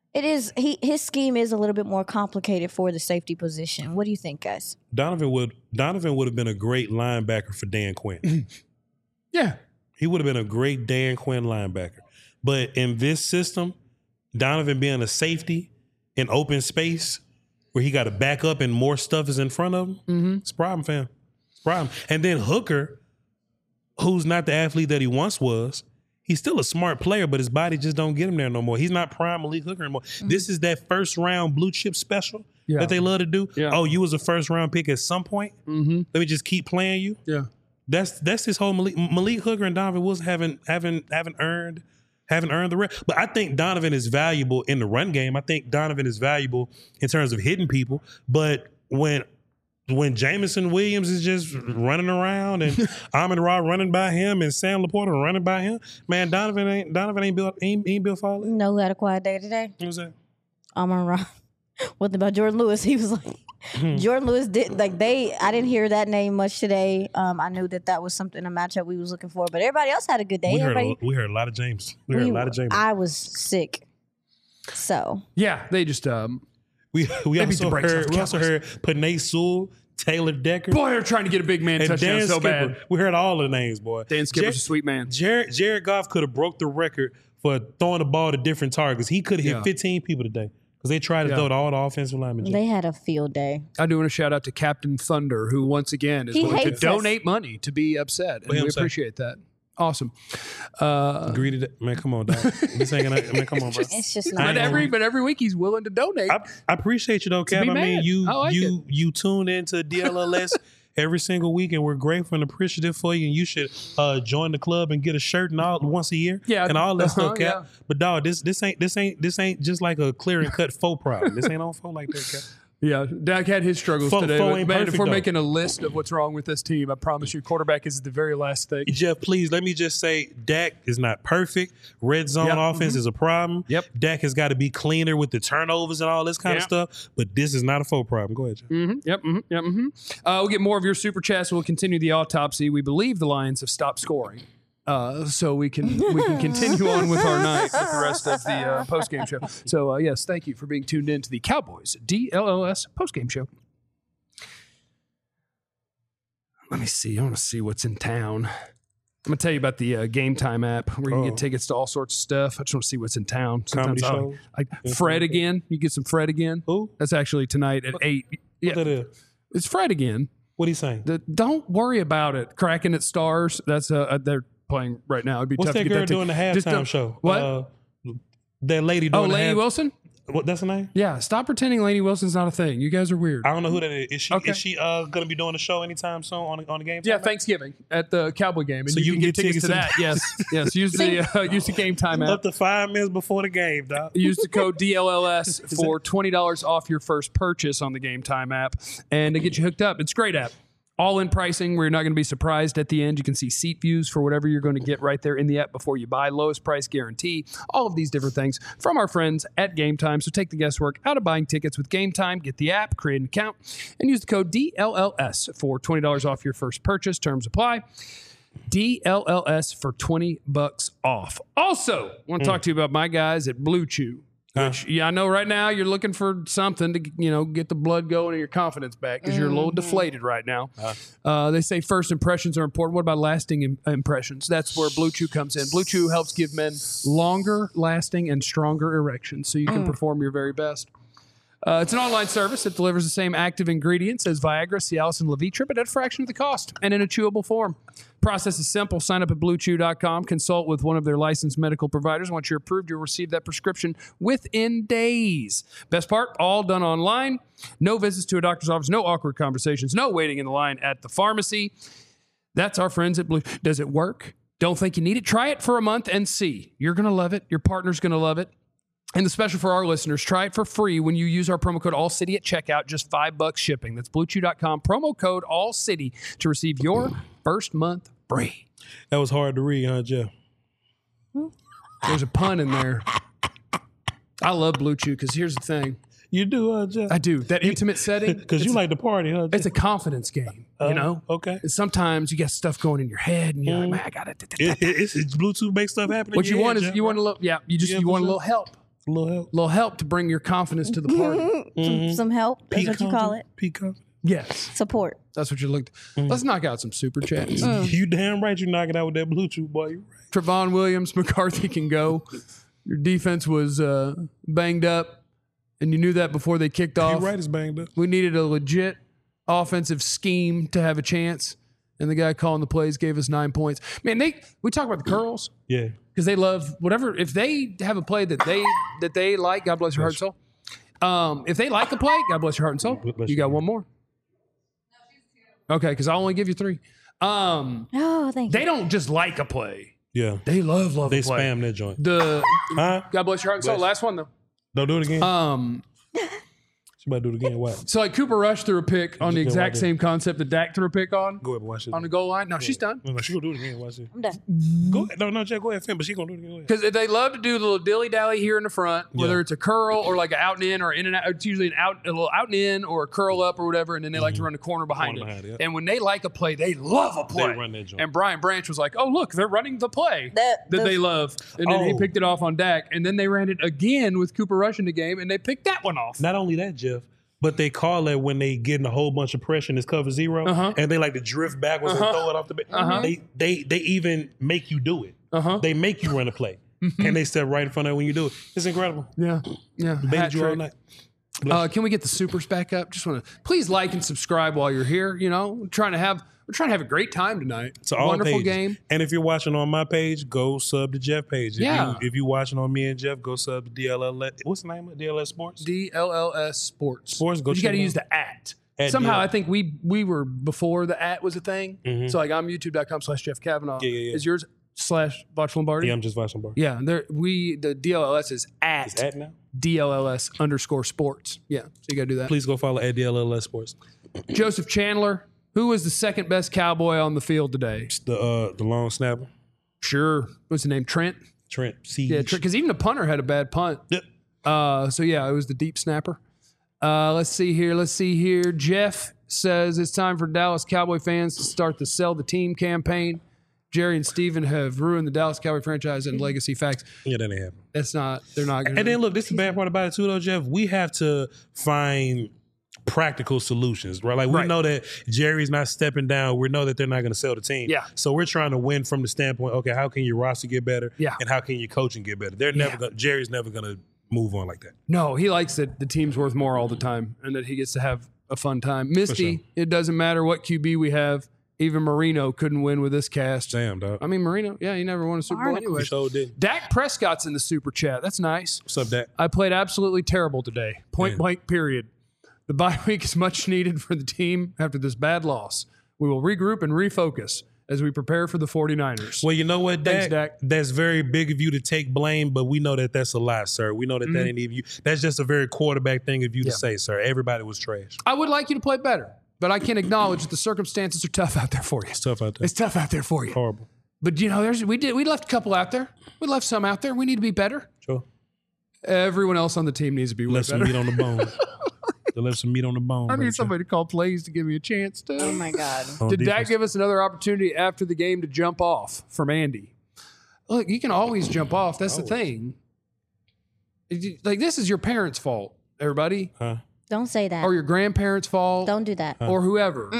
scheme is a little bit more complicated for the safety position. What do you think, guys? Donovan would have been a great linebacker for Dan Quinn. Yeah. He would have been a great Dan Quinn linebacker. But in this system, Donovan being a safety in open space where he got to back up and more stuff is in front of him, it's a problem, fam. It's a problem. And then Hooker, who's not the athlete that he once was, he's still a smart player, but his body just don't get him there no more. He's not prime Malik Hooker anymore. This is that first round blue chip special that they love to do. Yeah. Oh, you was a first round pick at some point. Let me just keep playing you. Yeah. That's his whole Malik Hooker and Donovan Wilson haven't earned the rest. But I think Donovan is valuable in the run game. I think Donovan is valuable in terms of hitting people. But when Jameson Williams is just running around and Amon-Ra running by him and Sam Laporta running by him, man, Donovan ain't built for all that. You know who had a quiet day today? What was that? Amon-Ra. What about Jordan Lewis? He was like, Jordan Lewis didn't I didn't hear that name much today. I knew that was something, a matchup we was looking for, but everybody else had a good day. We heard a lot of James. We heard a lot of James. I was sick. So Yeah. They just, We beat the brakes off the also heard Panay Sewell, Taylor Decker, boy, they're trying to get a big man and touchdown Dan so Skipper. bad. We heard all the names, boy. Dan Skipper's a sweet man. Jared Goff could have broke the record for throwing the ball to different targets. He could have hit Yeah. 15 people today because they tried to throw to all the offensive linemen. they had a field day. I do want to shout out to Captain Thunder, who once again is He willing to hates us. donate money to be upset. And we him say. appreciate that. Awesome. Agree to that. Man, come on, dog. This ain't gonna, man, come on, bro. It's just I not. ain't But every week he's willing to donate. I appreciate you though, Cap. be I mean, mad. I like you tuned into DLLS every single week, and we're grateful and appreciative for you. And you should join the club and get a shirt and all once a year, and all that stuff, Cap. yeah. But dog, this ain't just like a clear and cut faux problem. This ain't on faux like that, Cap. Yeah, Dak had his struggles Fo today. But ain't man, perfect, if we're though. making a list of what's wrong with this team, I promise you, quarterback is the very last thing. Jeff, please let me just say, Dak is not perfect. Red zone Yep. offense is a problem. Yep. Dak has got to be cleaner with the turnovers and all this kind of Yep. stuff. But this is not a faux problem. Go ahead, Jeff. We'll get more of your super chats. We'll continue the autopsy. We believe the Lions have stopped scoring. So we can continue on with our night with the rest of the post-game show. So, yes, thank you for being tuned in to the Cowboys DLLS post-game show. Let me see. I want to see what's in town. I'm going to tell you about the Game Time app where you can get tickets to all sorts of stuff. I just want to see what's in town. Comedy Sometimes shows? Fred again. You get some Fred again. Who? That's actually tonight at 8. What that is? It's Fred again. What he saying? Don't worry about it. Cracking at Stars. That's they're playing right now. It'd be What's tough that to get girl that doing the Just halftime don't- show? What? That lady doing the Lainey Wilson? What, that's her name? Yeah. Stop pretending Lainey Wilson's not a thing. You guys are weird. I don't know who that is. Okay. Is she gonna be doing a show anytime soon on the game? Yeah, time? Thanksgiving at the Cowboy game, and So you can get tickets to that. Yes. Use the Game Time app. Up to 5 minutes before the game, dog. Use the code DLLS for $20 off your first purchase on the Game Time app, and to get you hooked up. It's a great app. All in pricing where you're not going to be surprised at the end. You can see seat views for whatever you're going to get right there in the app before you buy. Lowest price guarantee. All of these different things from our friends at Game Time. So take the guesswork out of buying tickets with Game Time. Get the app, create an account, and use the code DLLS for $20 off your first purchase. Terms apply. DLLS for $20 off. Also, I want to talk to you about my guys at Blue Chew. Which, yeah, I know right now you're looking for something to, get the blood going and your confidence back because you're a little deflated right now. They say first impressions are important. What about lasting impressions? That's where Blue Chew comes in. Blue Chew helps give men longer lasting and stronger erections so you can perform your very best. It's an online service that delivers the same active ingredients as Viagra, Cialis, and Levitra, but at a fraction of the cost and in a chewable form. Process is simple. Sign up at BlueChew.com. Consult with one of their licensed medical providers. Once you're approved, you'll receive that prescription within days. Best part, all done online. No visits to a doctor's office, no awkward conversations, no waiting in the line at the pharmacy. That's our friends at Blue. Does it work? Don't think you need it? Try it for a month and see. You're going to love it. Your partner's going to love it. And the special for our listeners, try it for free when you use our promo code ALLCITY at checkout, just $5 shipping. That's BlueChew.com, promo code ALLCITY to receive your first month free. That was hard to read, huh, Jeff? There's a pun in there. I love Blue Chew because here's the thing. You do, huh, Jeff? I do. That intimate setting. Because you like to party, huh, Jeff? It's a confidence game, Okay. And sometimes you got stuff going in your head and you're like, man, I got it. It's Bluetooth make stuff happen. What you want is Jeff, you want a little, you want a little help. A little help. A little help to bring your confidence to the party. Some help. That's what you call it. Peak confidence. Yes. Support. That's what you looked. Let's knock out some super chats. You damn right you knock it out with that Bluetooth, boy. You right. Trevon Williams, McCarthy can go. Your defense was banged up, and you knew that before they kicked off. You're right, it's banged up. We needed a legit offensive scheme to have a chance, and the guy calling the plays gave us 9 points. Man, we talk about the curls. Yeah. Because they love whatever. If they have a play that they like, God bless your heart and soul. If they like a play, God bless your heart and soul. You got one more. Okay, because I'll only give you 3. Oh, thank you. They don't just like a play. Yeah. They love They a play. spam that joint. God bless your heart and soul. Last one though. Don't do it again. She about to do it again. What? So like Cooper Rush threw a pick on the go exact right same concept that Dak threw a pick on. Go ahead and watch it. On the goal line. No, she's done. No, she gonna do it again. Watch it. I'm done. Go ahead. No, Jack, go ahead, Finn, but she gonna do it again. Because they love to do the little dilly dally here in the front, whether it's a curl or like an out and in or in and out. It's usually a little out and in or a curl up or whatever, and then they like to run the corner behind it. And when they like a play, they love a play. They run that joint. And Brian Branch was like, "Oh look, they're running the play that they love," and then he picked it off on Dak, and then they ran it again with Cooper Rush in the game, and they picked that one off. Not only that, Jeff, but they call it when they getting a whole bunch of pressure and it's cover 0, and they like to drift backwards and throw it off the bench. They even make you do it. They make you run a play, and they step right in front of it when you do it. It's incredible. Yeah. Baited you all night. Can we get the supers back up? Just want to please like and subscribe while you're here. We're trying to have a great time tonight. It's a wonderful pages. game. And if you're watching on my page, go sub to Jeff page. If you're watching on me and Jeff, go sub to DLLS. What's the name of it? DLS Sports? DLLS Sports. Go you got to use the at. Somehow I think we were before the at was a thing. So like I'm youtube.com/Jeff Kavanaugh. Yeah. Is yours /Voch Lombardi? Yeah, I'm just watching Lombardi. Yeah, the DLLS is at. It's at now? DLLS_sports. Yeah, so you got to do that. Please go follow at DLLS Sports. Joseph Chandler. Who was the second best Cowboy on the field today? The long snapper. Sure. What's the name? Trent? Trent. Siege. Yeah, because even the punter had a bad punt. Yep. So, yeah, it was the deep snapper. Let's see here. Jeff says it's time for Dallas Cowboy fans to start the Sell the Team campaign. Jerry and Steven have ruined the Dallas Cowboy franchise and legacy facts. Yeah, that ain't happening. They're not going to. And then, look, this is the bad part about it, too, though, Jeff. We have to find practical solutions, right? Like we know that Jerry's not stepping down. We know that they're not going to sell the team. Yeah. So we're trying to win from the standpoint, okay, how can your roster get better? Yeah. And how can your coaching get better? They're never going Jerry's never going to move on like that. No, he likes that the team's worth more all the time and that he gets to have a fun time. Misty, It doesn't matter what QB we have. Even Marino couldn't win with this cast. Damn, dog. I mean, Marino, he never won a Super Bowl anyway. He sure did. Dak Prescott's in the super chat. That's nice. What's up, Dak? I played absolutely terrible today. Point blank, period. The bye week is much needed for the team after this bad loss. We will regroup and refocus as we prepare for the 49ers. Well, you know what, Dak? Thanks, Dak. That's very big of you to take blame, but we know that that's a lie, sir. We know that that ain't even you. That's just a very quarterback thing of you to say, sir. Everybody was trash. I would like you to play better, but I can acknowledge that the circumstances are tough out there for you. It's tough out there. It's tough out there for you. Horrible. But, we left a couple out there. We left some out there. We need to be better. Sure. Everyone else on the team needs to be way Left some better. meat on the bone. They left some meat on the bone. I need somebody to call plays to give me a chance to. Oh my God. Did Dak give us another opportunity after the game to jump off from Andy? Look, you can always jump off. That's the thing. Like, this is your parents' fault, everybody. Don't say that. Or your grandparents' fault. Don't do that. Or whoever.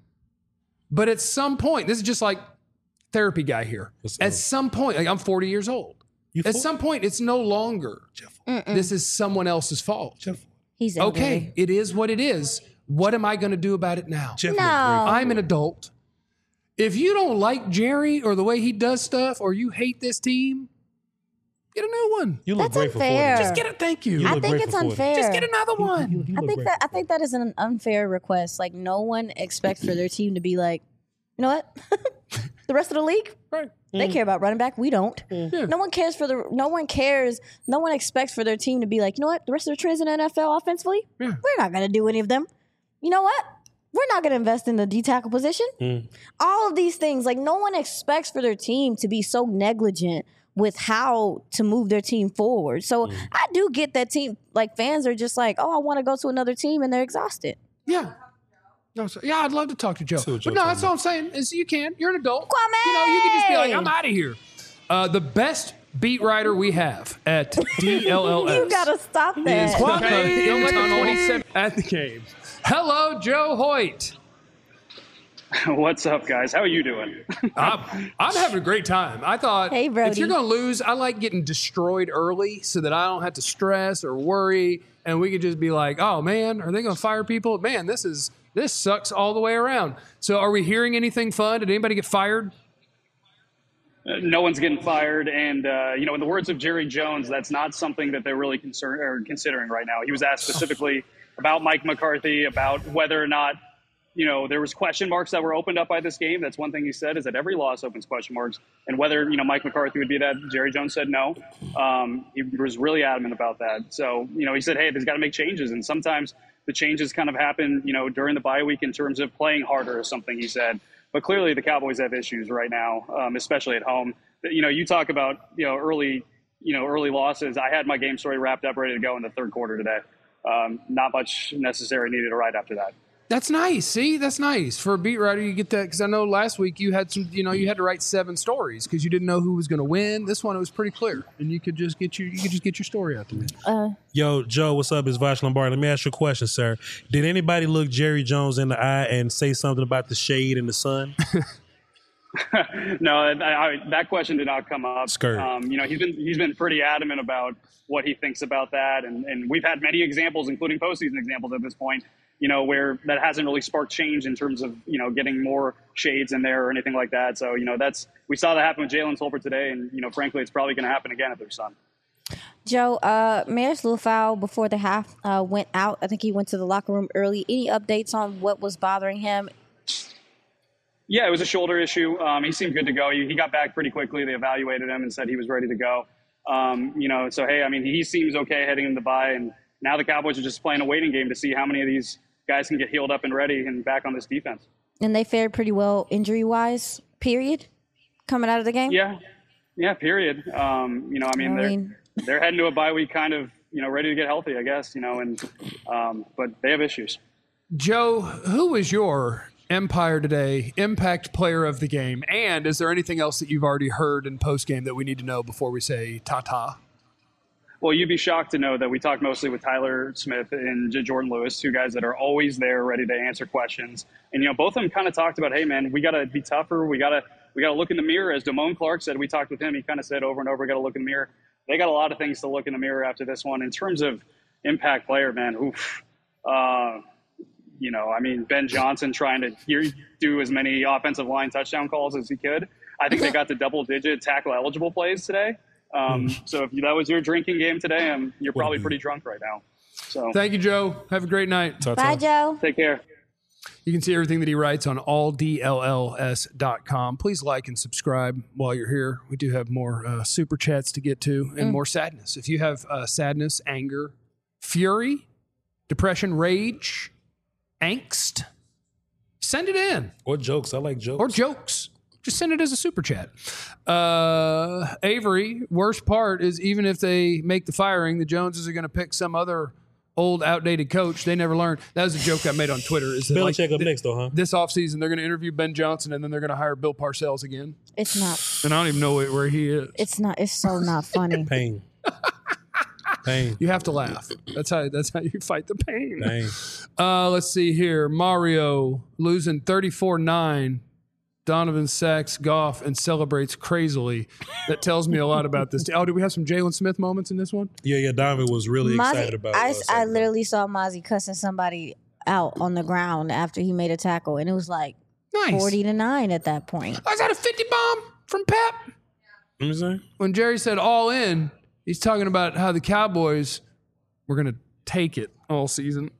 But at some point, this is just like therapy guy here. At some point, like, I'm 40 years old. At some point, it's no longer this is someone else's fault. He's angry. Okay, it is what it is. What am I going to do about it now? No. I'm an adult. If you don't like Jerry or the way he does stuff, or you hate this team, get a new one. You look That's grateful unfair. for it. Just get it. Thank you. I think it's unfair. Just get another one. I think that is an unfair request. Like, no one expects for their team to be like, you know what? The rest of the league, Right. they care about running back. We don't. Yeah. No one cares. No one expects for their team to be like, you know what? The rest of the trends in the NFL offensively, we're not going to do any of them. You know what? We're not going to invest in the D tackle position. All of these things, like, no one expects for their team to be so negligent with how to move their team forward. So I do get that team, like, fans are just like, oh, I want to go to another team, and they're exhausted. Yeah. No, so, yeah, I'd love to talk to Joe. But no, that's all I'm saying is you can. You're an adult. Kwame! You know, you can just be like, I'm out of here. The best beat writer we have at DLLS. You got to stop that. Kwame at the game. Hello, Joe Hoyt. What's up, guys? How are you doing? I'm having a great time. I thought, Hey, Brody. if you're going to lose, I like getting destroyed early so that I don't have to stress or worry, and we could just be like, oh, man, are they going to fire people? Man, this sucks all the way around. So are we hearing anything fun? Did anybody get fired? No one's getting fired. And, in the words of Jerry Jones, that's not something that they're really considering right now. He was asked specifically about Mike McCarthy, about whether or not, there was question marks that were opened up by this game. That's one thing he said, is that every loss opens question marks. And whether, Mike McCarthy would be that, Jerry Jones said no. He was really adamant about that. So, he said, hey, there's got to make changes. And sometimes the changes kind of happen, during the bye week in terms of playing harder or something, he said. But clearly the Cowboys have issues right now, especially at home. You talk about, early losses. I had my game story wrapped up, ready to go in the third quarter today. Not much necessary needed right after that. That's nice. See, that's nice. For a beat writer, you get that, because I know last week you had some, you had to write 7 stories because you didn't know who was going to win. This one, it was pretty clear, and you could just get your story out there. Yo, Joe, what's up? It's Vash Lombardi. Let me ask you a question, sir. Did anybody look Jerry Jones in the eye and say something about the shade in the sun? No, that question did not come up. Skirt. He's been pretty adamant about what he thinks about that, and we've had many examples, including postseason examples at this point, where that hasn't really sparked change in terms of, getting more shades in there or anything like that. So, we saw that happen with Jalen Tolbert today, and, frankly, it's probably going to happen again at their son. Joe, Marist Liufau before the half went out. I think he went to the locker room early. Any updates on what was bothering him? Yeah, it was a shoulder issue. He seemed good to go. He got back pretty quickly. They evaluated him and said he was ready to go. So, hey, he seems okay heading into the bye, and now the Cowboys are just playing a waiting game to see how many of these guys can get healed up and ready and back on this defense. And they fared pretty well injury-wise, period, coming out of the game? Yeah, period. They're heading to a bye week kind of, ready to get healthy, I guess, but they have issues. Joe, who was your Empire Today Impact Player of the Game? And is there anything else that you've already heard in postgame that we need to know before we say ta-ta? Well, you'd be shocked to know that we talked mostly with Tyler Smith and Jordan Lewis, 2 guys that are always there ready to answer questions. And, both of them kind of talked about, hey, man, we got to be tougher. We got to look in the mirror. As Damone Clark said, we talked with him. He kind of said over and over, we got to look in the mirror. They got a lot of things to look in the mirror after this one. In terms of impact player, man, Ben Johnson trying to do as many offensive line touchdown calls as he could. I think they got to double-digit tackle-eligible plays today. So if that was your drinking game today, you're probably pretty drunk right now. So thank you, Joe. Have a great night. Bye, Joe. Take care. You can see everything that he writes on alldlls.com. Please like and subscribe while you're here. We do have more super chats to get to and more sadness. If you have sadness, anger, fury, depression, rage, angst, send it in. Or jokes. I like jokes. Or jokes. Just send it as a super chat. Avery, worst part is even if they make the firing, the Joneses are going to pick some other old, outdated coach. They never learned. That was a joke I made on Twitter. Is that Belichick up next, though, huh? This offseason, they're going to interview Ben Johnson, and then they're going to hire Bill Parcells again. It's not. And I don't even know where he is. It's not. It's so not funny. Pain. Pain. You have to laugh. That's how you fight the pain. Pain. Let's see here. Mario losing 34-9. Donovan sacks Goff and celebrates crazily. That tells me a lot about this. Oh, did we have some Jalen Smith moments in this one? Yeah. Donovan was really excited about it. I literally saw Mozzie cussing somebody out on the ground after he made a tackle, and it was like Nice. 40-9 at that point. Oh, is that a 50 bomb from Pep? You know what I'm saying? When Jerry said all in, he's talking about how the Cowboys were going to take it all season.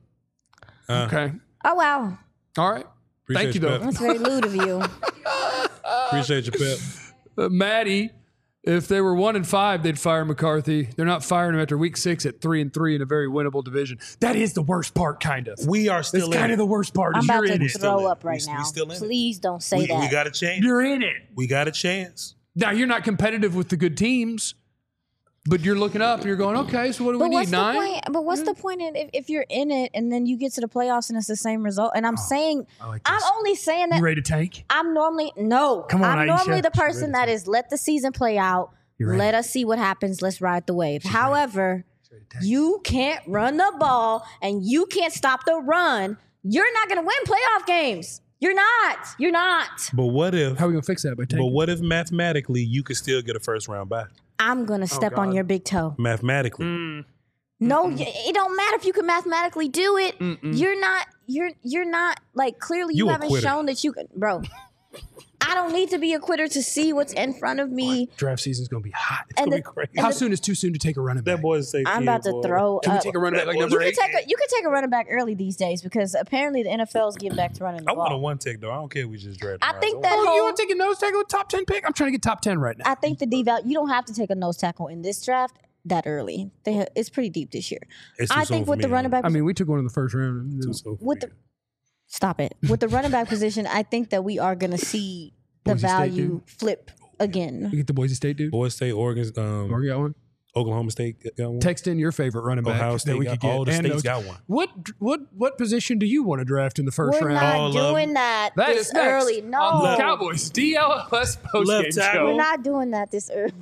Okay. Oh, wow. All right. Appreciate Thank you, you, though. Pep. That's very lewd of you. Appreciate you, Pep. Maddie, if they were 1-5, they'd fire McCarthy. They're not firing him after week 6 at 3-3 in a very winnable division. That is the worst part, kind of. We are still It's in kind it. of the worst part. I'm is about you're in to it. throw up right We now. still in it. Please don't say that. We got a chance. You're in it. We got a chance. Now, you're not competitive with the good teams, but you're looking up and you're going, okay, so what do we But need? what's 9? the point? But what's the point if you're in it and then you get to the playoffs and it's the same result? And I'm saying, like I'm this. only saying You that ready to tank? I'm normally no. Come on, I'm Aisha. normally the She's person that is let the season play out. You're Let us see what happens. Let's ride the wave. However, you can't run the ball and you can't stop the run. You're not going to win playoff games. You're not. You're not. But what if? How are we going to fix that by tanking? But what if mathematically you could still get a first round bye? I'm going to step on God. your big toe. Mathematically. No, it don't matter if you can mathematically do it. You're not like clearly you You a haven't quitter. shown that you can, bro. I don't need to be a quitter to see what's in front of me. Draft season's going to be hot. It's And going to the- be crazy. and How the- soon is too soon to take a running back? That boy's safe. I'm about to throw Can we up. take a running back like You number You 8? could take a running back early these days because apparently the NFL is getting back to running the I want a ball. one tick though. I don't care if we just drafted. I think that Oh, you whole, want to take a nose tackle with top 10 pick? I'm trying to get top 10 right now. I think the deval. You don't have to take a nose tackle in this draft that early. It's pretty deep this year. It's too I soon think for with me, the man. running back. I mean, we took one in the first round. Too soon for with me. the stop it with the running back position. I think that we are going to see the Boise State, value dude. flip again. You get the Boise State dude? Boise State, Oregon, Or you got one? Oklahoma State got one. Text in your favorite running back Ohio that State we got could get. all the And states those- got one. What position do you want to draft in the 1st We're round? not All of them. doing that That this is next early. on No, the Cowboys DLS postgame Left tackle. we're show. not doing that this early.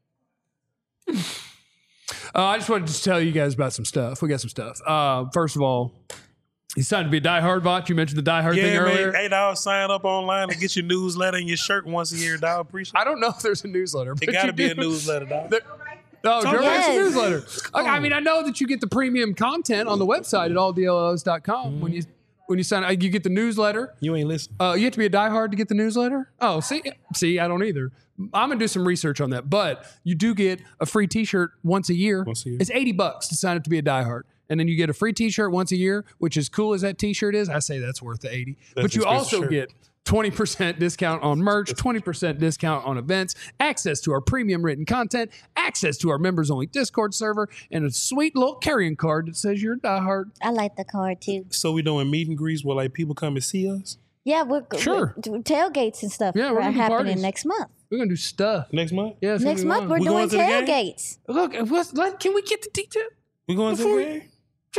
I just wanted to tell you guys about some stuff. We got some stuff. First of all, he's signed to be a diehard bot. You mentioned the diehard thing Yeah, earlier. man. Hey, dog, sign up online and get your newsletter and your shirt once a year, dog. Appreciate I don't know if there's a newsletter. it. But It got to you be a do. newsletter, dog. Oh, Joe Yes. writes a newsletter. Okay, I mean, I know that you get the premium content on the website at alldlls.com when you sign up. You get the newsletter. You ain't listening. You have to be a diehard to get the newsletter? Oh, see, I don't either. I'm going to do some research on that. But you do get a free T-shirt once a year. Once a year. It's $80 to sign up to be a diehard. And then you get a free T-shirt once a year, which as cool as that T-shirt is, I say that's worth the $80. But you expensive also shirt. get 20% discount on merch, 20% discount on events, access to our premium written content, access to our members-only Discord server, and a sweet little carrying card that says you're a diehard. I like the card too. So we doing meet and greets where like people come and see us Yeah, we're Sure. we're tailgates and stuff. Yeah, we're are gonna do happening parties. next month. We're going to do stuff. next month. Yeah, it's gonna Next be month fun. we're We doing going to the game? tailgates. Look, can we get the detail? We going to Before the we- game?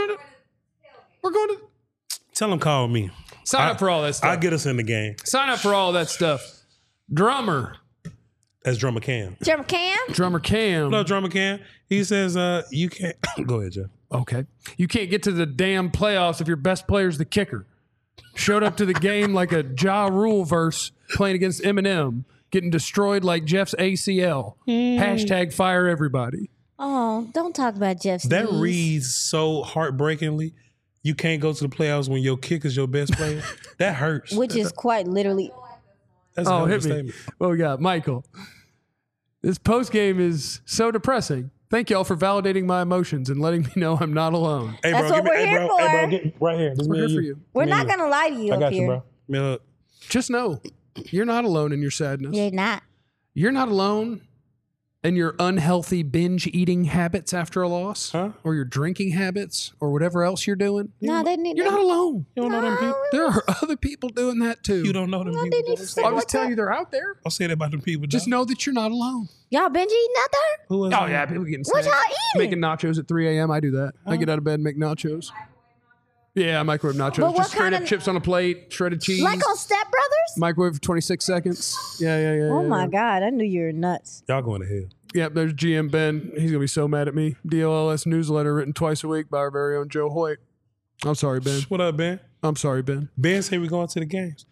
We're going to Tell them call me. sign up for all that stuff. I'll get us in the game. Sign up for all that stuff. Drummer That's Drummer Cam. Jeremy Cam? Cam. Hello, Drummer Cam. He says, you can't. Go ahead, Jeff. Okay. You can't get to the damn playoffs if your best player's the kicker. Showed up to the game like a Ja Rule verse playing against Eminem, getting destroyed like Jeff's ACL. Hashtag fire everybody. Oh, don't talk about Jeff's That knees. reads so heartbreakingly. You can't go to the playoffs when your kicker's your best player. That hurts. Which is quite literally. That's a hell of a Hit me. statement. What we got? Michael. This post game is so depressing. Thank y'all for validating my emotions and letting me know I'm not alone. Hey, That's bro, what give me, we're hey, here bro, hey, bro, for. get right here. This We're me here and for you. you. We're Me not and you. going to lie to you I up got here. you, bro. Me up. Just know you're not alone in your sadness. You're not. You're not alone in your unhealthy binge eating habits after a loss, Huh? or your drinking habits, or whatever else you're doing. No, they need. You're not alone. You don't know them people. There are other people doing that too. You don't know them No, people. they need to say I'm what's just telling up. you they're out there. I'll say that about them people. Just dog. know that you're not alone. Y'all binge eating out there? Who else? Oh yeah, people getting What snacks. y'all eating? Making nachos at 3 a.m. I do that. I get out of bed and make nachos. Yeah, microwave nachos. But what Just straight kind up of- chips on a plate, shredded cheese. Like on Step Brothers? Microwave for 26 seconds. Yeah. Oh my God, I knew you were nuts. Y'all going to hell. Yep, there's GM Ben. He's going to be so mad at me. DLLS newsletter written twice a week by our very own Joe Hoyt. I'm sorry, Ben. What up, Ben? I'm sorry, Ben. Ben said we're going to the games.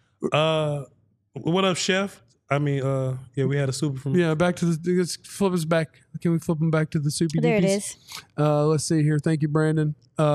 What up, Chef? I mean, yeah, we had a super from. Yeah, back to the. Let's flip us back. Can we flip them back to the super? There it is. Let's see here. Thank you, Brandon.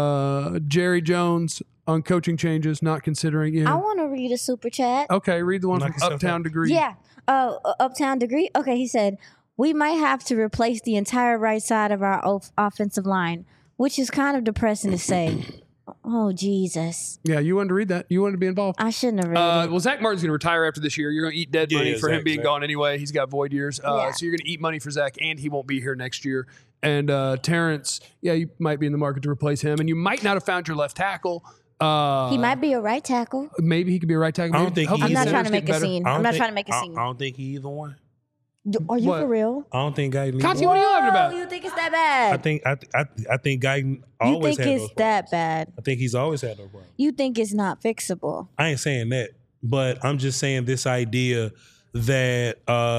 Jerry Jones on coaching changes, not considering it. I want to read a super chat. Okay, read the one Knock from yourself Uptown out. Degree. Yeah. Uptown Degree. Okay, he said, we might have to replace the entire right side of our offensive line, which is kind of depressing to say. Oh, Jesus. Yeah, you wanted to read that. You wanted to be involved. I shouldn't have read it. Well, Zach Martin's going to retire after this year. You're going to eat dead Yeah, money yeah, for him Zach, being Zach. gone anyway. He's got void years. Yeah. So you're going to eat money for Zach, and he won't be here next year. And Terrence, yeah, you might be in the market to replace him. And you might not have found your left tackle. He might be a right tackle. Maybe he could be a right tackle. I don't think Hopefully he's I'm not his trying to numbers make get a better. scene. I don't I'm not think- trying to make a scene. I don't think he either one. Are you What? for real? I don't think Guyton. Conti, what are you laughing about? Oh, you think it's that bad? I think Guyton You always think had it's those problems. that bad? I think he's always had those problems. You think it's not fixable? I ain't saying that, but I'm just saying this idea that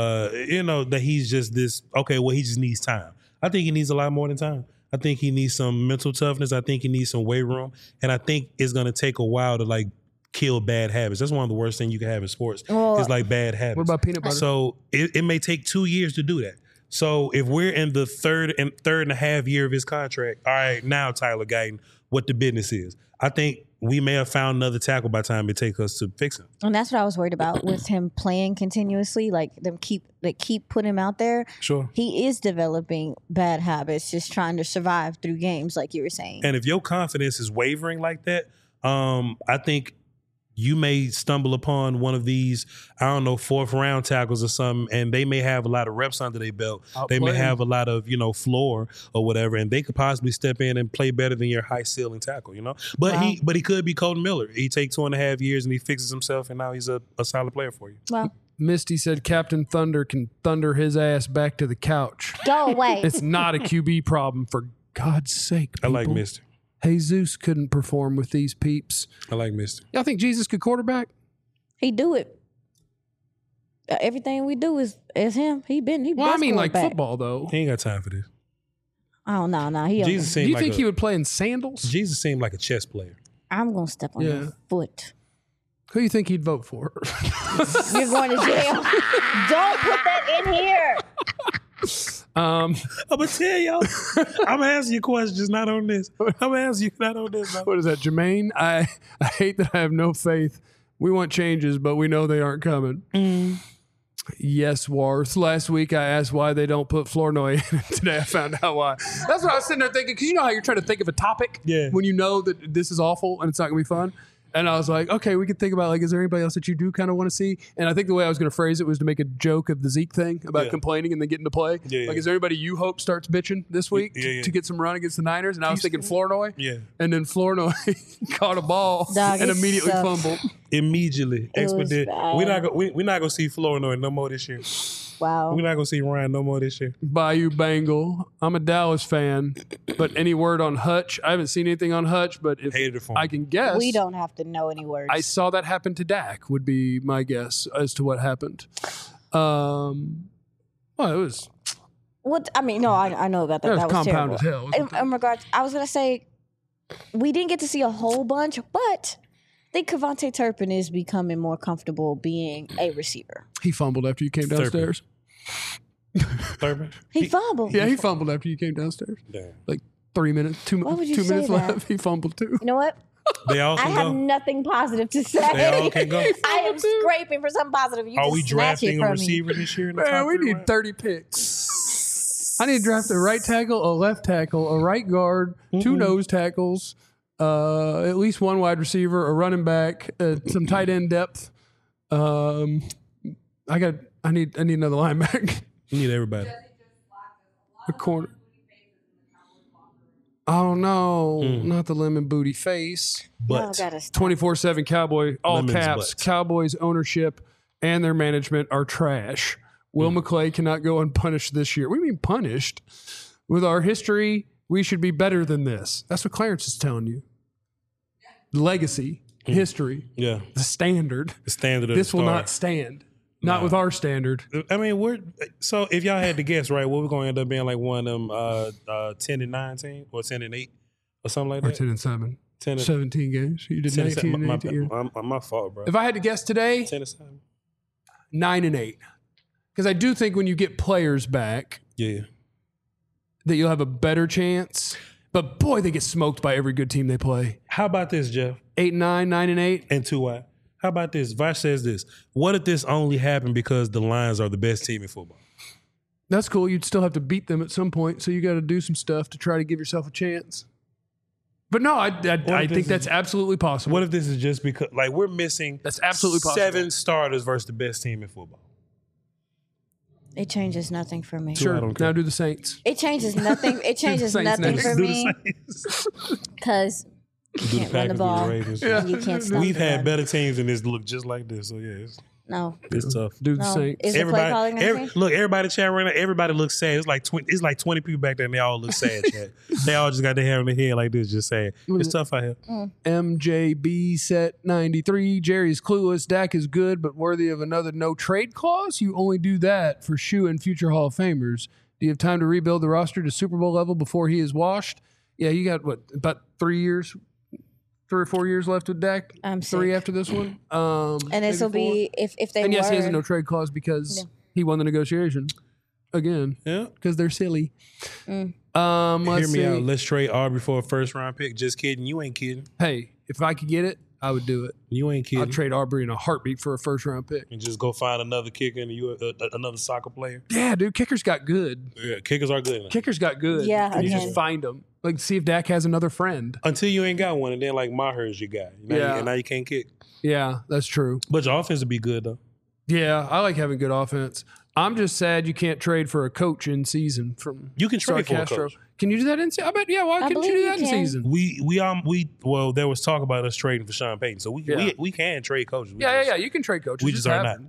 that he's just this. Okay, well, he just needs time. I think he needs a lot more than time. I think he needs some mental toughness. I think he needs some weight room, and I think it's gonna take a while to like kill bad habits. That's one of the worst things you can have in sports. Well, is like bad habits. What about peanut butter? So it may take 2 years to do that. So if we're in the third and a half year of his contract, all right, now Tyler Guyton, what the business is. I think we may have found another tackle by the time it takes us to fix him. And that's what I was worried about with him playing continuously. Like them keep putting him out there. Sure. He is developing bad habits, just trying to survive through games, like you were saying. And if your confidence is wavering like that, I think you may stumble upon one of these, I don't know, 4th round tackles or something, and they may have a lot of reps under their belt. They may Outplaying. have a lot of, floor or whatever, and they could possibly step in and play better than your high ceiling tackle, But Wow. he could be Colton Miller. He takes 2.5 years and he fixes himself, and now he's a solid player for you. Well, Misty said Captain Thunder can thunder his ass back to the couch. go away. It's not a QB problem, for God's sake. I like people. Mister. Jesus couldn't perform with these peeps. I like Mister. Y'all think Jesus could quarterback? He do it. Everything we do is him. He Well, I best mean, like quarterback. football, though. He ain't got time for this. Oh no, he. Jesus Do seemed you like think he would play in sandals? Jesus seemed like a chess player. I'm gonna step on Yeah. your foot. Who do you think he'd vote for? You're going to jail. Don't put that in here. I'm gonna tell y'all. I'm gonna answer your questions, not on this. I'm gonna answer you not on this. What is that, Jermaine? I hate that I have no faith. We want changes, but we know they aren't coming. Yes, Warth. Last week I asked why they don't put Flournoy in. Today I found out why. That's what I was sitting there thinking, because you know how you're trying to think of a topic Yeah. when you know that this is awful and it's not going to be fun? And I was like, okay, we could think about, like, is there anybody else that you do kind of want to see? And I think the way I was going to phrase it was to make a joke of the Zeke thing about Yeah. complaining and then getting to play. Yeah, Like, yeah. is there anybody you hope starts bitching this week Yeah, yeah. to get some run against the Niners? And I was thinking Flournoy. Yeah. And then Flournoy caught a ball Dog, and it immediately sucked. fumbled. Immediately, It was expedite. bad. We're not gonna see Flournoy no more this year. Wow. We're not gonna see Ryan no more this year. Bayou Bengal. I'm a Dallas fan, but any word on Hutch? I haven't seen anything on Hutch, but if Hated it for him. I can guess, We don't have to know any words. I saw that happen to Dak. Would be my guess as to what happened. Well, it was What I mean, no, I know about that. That was That was compound terrible. as hell. In regards, I was gonna say we didn't get to see a whole bunch, but I think Kevontae Turpin is becoming more comfortable being a receiver. he fumbled after you came downstairs. Thurman. He fumbled. Yeah, he fumbled after you came downstairs. Damn. Like 3 minutes, two Why would you two say minutes that? left. He fumbled too. You know what? They all I can have go. nothing positive to say. They all can go. I am scraping for something positive. You Are just we snatch it drafting a from receiver this year? In the Man, top we 3 need rounds? 30 picks. I need to draft a right tackle, a left tackle, a right guard, two nose tackles, at least one wide receiver, a running back, some tight end depth. I need another linebacker. You need everybody. A corner. Oh no, not the lemon booty face. Y'all But gotta stop. 24/7 Cowboy, all Lemons caps. butts. Cowboys ownership and their management are trash. Will McClay cannot go unpunished this year. We mean punished. With our history, we should be better than this. That's what Clarence is telling you. Legacy, history, yeah, the standard. the standard of This the will star. not stand. Not with our standard. I mean, so if y'all had to guess, right, what we're going to end up being like one of them 10-9 team or 10-8 or something like Or that? 10-7. 10 17 games. You did 10 19 and 18. my fault, bro. If I had to guess today, 10-7. 9-8. Because I do think when you get players back, Yeah. that you'll have a better chance. But boy, they get smoked by every good team they play. How about this, Jeff? 8-9, 9-8. And 2-1. How about this? Vosh says this. What if this only happened because the Lions are the best team in football? That's cool. You'd still have to beat them at some point, so you got to do some stuff to try to give yourself a chance. But no, I think that's absolutely possible. What if this is just because, like, we're missing That's absolutely possible. 7 starters versus the best team in football? It changes nothing for me. Sure. I don't care. Now do the Saints. It changes nothing. It changes Saints nothing next. for Do me the Saints. because you Do the can't run the Packers, do the ball Ravens. and you can't stop We've the had run. better teams than this look just like this. So, yeah, No, it's tough. Do the no. Saints. Is the play calling gonna change? Look, everybody chat right now. Everybody looks sad. It's like 20 people back there, and they all look sad. Chat. They all just got their hair on their head like this, just sad. It's tough out here. MJB set 93. Jerry's clueless. Dak is good, but worthy of another no trade clause. You only do that for Shoe and future Hall of Famers. Do you have time to rebuild the roster to Super Bowl level before he is washed? Yeah, you got about 3 or 4 years left with Dak. I'm 3 sick. after this one. And this will maybe be if they four. And yes, he has a were- no trade clause because he won the negotiation again Yeah. because they're silly. Mm. Let's Hear me see. out. Let's trade Aubrey for a first round pick. Just kidding. You ain't kidding. Hey, if I could get it, I would do it. You ain't kidding. I'd trade Aubrey in a heartbeat for a first round pick. And just go find another kicker and another soccer player. Yeah, dude, kickers got good. Yeah, kickers are good. Kickers got good. Yeah, and you again. just find them. Like, see if Dak has another friend. Until you ain't got one, and then like Maher's your guy. And now you can't kick. Yeah, that's true. But your offense would be good though. Yeah, I like having good offense. I'm just sad you can't trade for a coach in season from You can trade for a Sarcastro. coach. Can you do that in season? I bet, yeah, why couldn't you believe do you that in can. season? Well, there was talk about us trading for Sean Payton, so we can trade coaches. Yeah, you can trade coaches. We just are not. happen.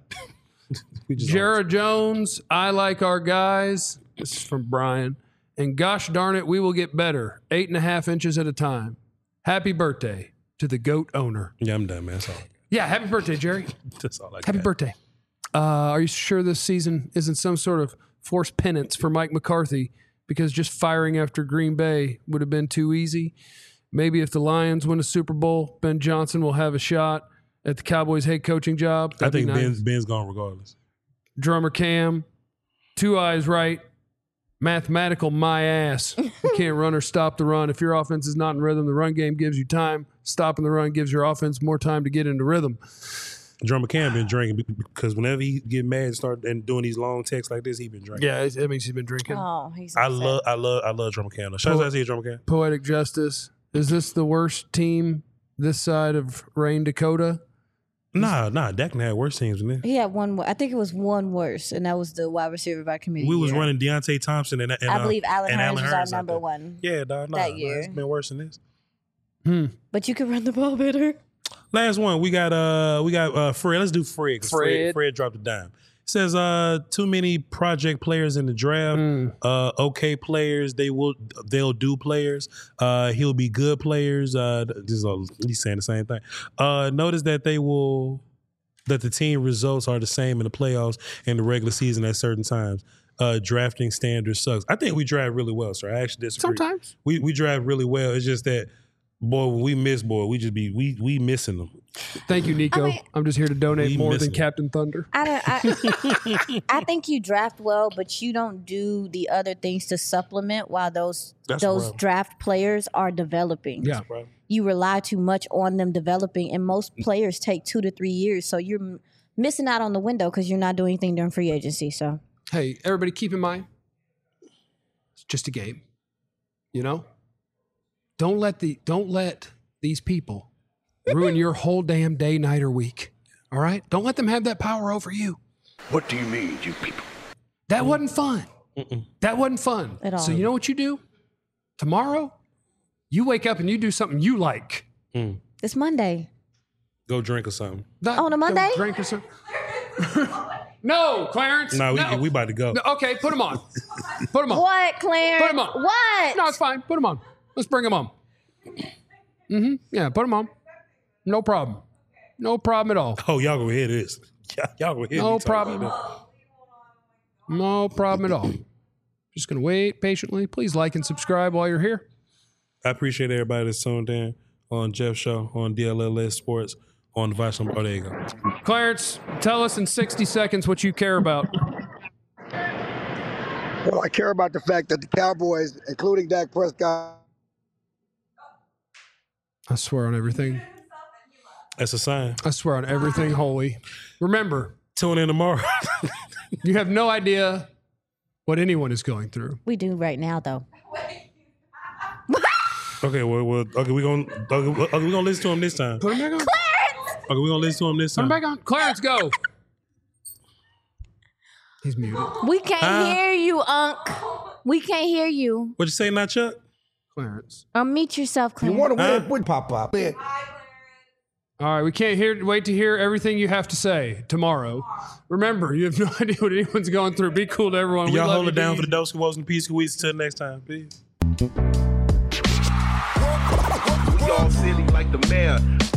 We just Jared Jones, I like our guys. This is from Brian. And gosh darn it, we will get better. 8.5 inches at a time. Happy birthday to the GOAT owner. Yeah, I'm done, man. That's all. Yeah, happy birthday, Jerry. That's all I got. Happy birthday. Are you sure this season isn't some sort of forced penance for Mike McCarthy because just firing after Green Bay would have been too easy? Maybe if the Lions win a Super Bowl, Ben Johnson will have a shot at the Cowboys head coaching job. I That'd think be nice. Ben's gone regardless. Drummer Cam, 2 eyes right, mathematical my ass. You can't run or stop the run. If your offense is not in rhythm, the run game gives you time. Stopping the run gives your offense more time to get into rhythm. Drummer Cam been drinking because whenever he get mad and start and doing these long texts like this, he been drinking. Yeah, that means he's been drinking. Oh, he's I upset. love Drummer Cam. though. Shout out to you, Drummer Cam. Poetic Justice. Is this the worst team this side of Rain, Dakota? Nah, Dak had worse teams than this. He had one. I think it was one worse, and that was the wide receiver by committee. We was year. running Deontay Thompson and I believe Allen and Hurns was our out number there. one. Yeah, dog. that year. It's been worse than this. But you could run the ball better. Last one, we got Fred. Let's do Fred. 'Cause Fred dropped a dime. It says too many project players in the draft. Okay players, they'll do players. He'll be good players. He's saying the same thing. Notice that that the team results are the same in the playoffs and the regular season at certain times. Drafting standard sucks. I think we draft really well, sir. I actually disagree. Sometimes. We draft really well. It's just that, boy, when we miss, we missing them. Thank you, Nico. I mean- I'm just here to donate We more than missing it. Captain Thunder. I think you draft well, but you don't do the other things to supplement while those That's the problem. draft players are developing. Yeah. Right. You rely too much on them developing, and most players take 2 to 3 years. So you're missing out on the window because you're not doing anything during free agency. So Hey, everybody keep in mind, it's just a game. You know? Don't let these people ruin your whole damn day, night, or week. All right? Don't let them have that power over you. What do you mean, you people? That wasn't fun. That wasn't fun. At all. So you know what you do? Tomorrow, you wake up and you do something you like. it's Monday. Go drink or something. Not On a Monday? go drink or something. No, Clarence. No, we about to go. No, okay, put them on. Put them on. What, Clarence? Put 'em on. What? No, it's fine. Put them on. Let's bring them on. Yeah, put them on. No problem. No problem at all. Oh, y'all gonna hear this. Y'all will hear No me talk problem. about No problem at all. Just going to wait patiently. Please like and subscribe while you're here. that. I appreciate everybody that's tuned in on Jeff's show, on DLLS Sports, on the Vice on Bodega. Clarence, tell us in 60 seconds what you care about. Well, I care about the fact that the Cowboys, including Dak Prescott, I swear on everything. That's a sign. I swear on everything holy. Remember, Tune in tomorrow. you have no idea what anyone is going through. We do right now, though. Okay, okay, we gonna listen to him this time. Put him back on. Okay, we gonna listen to him this Put him time. back on. Clarence, go. He's muted. We can't hear you, Unc. We can't hear you. What'd you say, not Chuck? Clarence. Unmute yourself, you Clarence. want to win, would pop up. Man. All right, we can't wait to hear everything you have to say tomorrow. Remember, you have no idea what anyone's going through. Be cool to everyone. We Y'all love hold you, it down dude. for the Doska Woes and Peace Squeeze. Until next time, peace. We all silly like the mayor.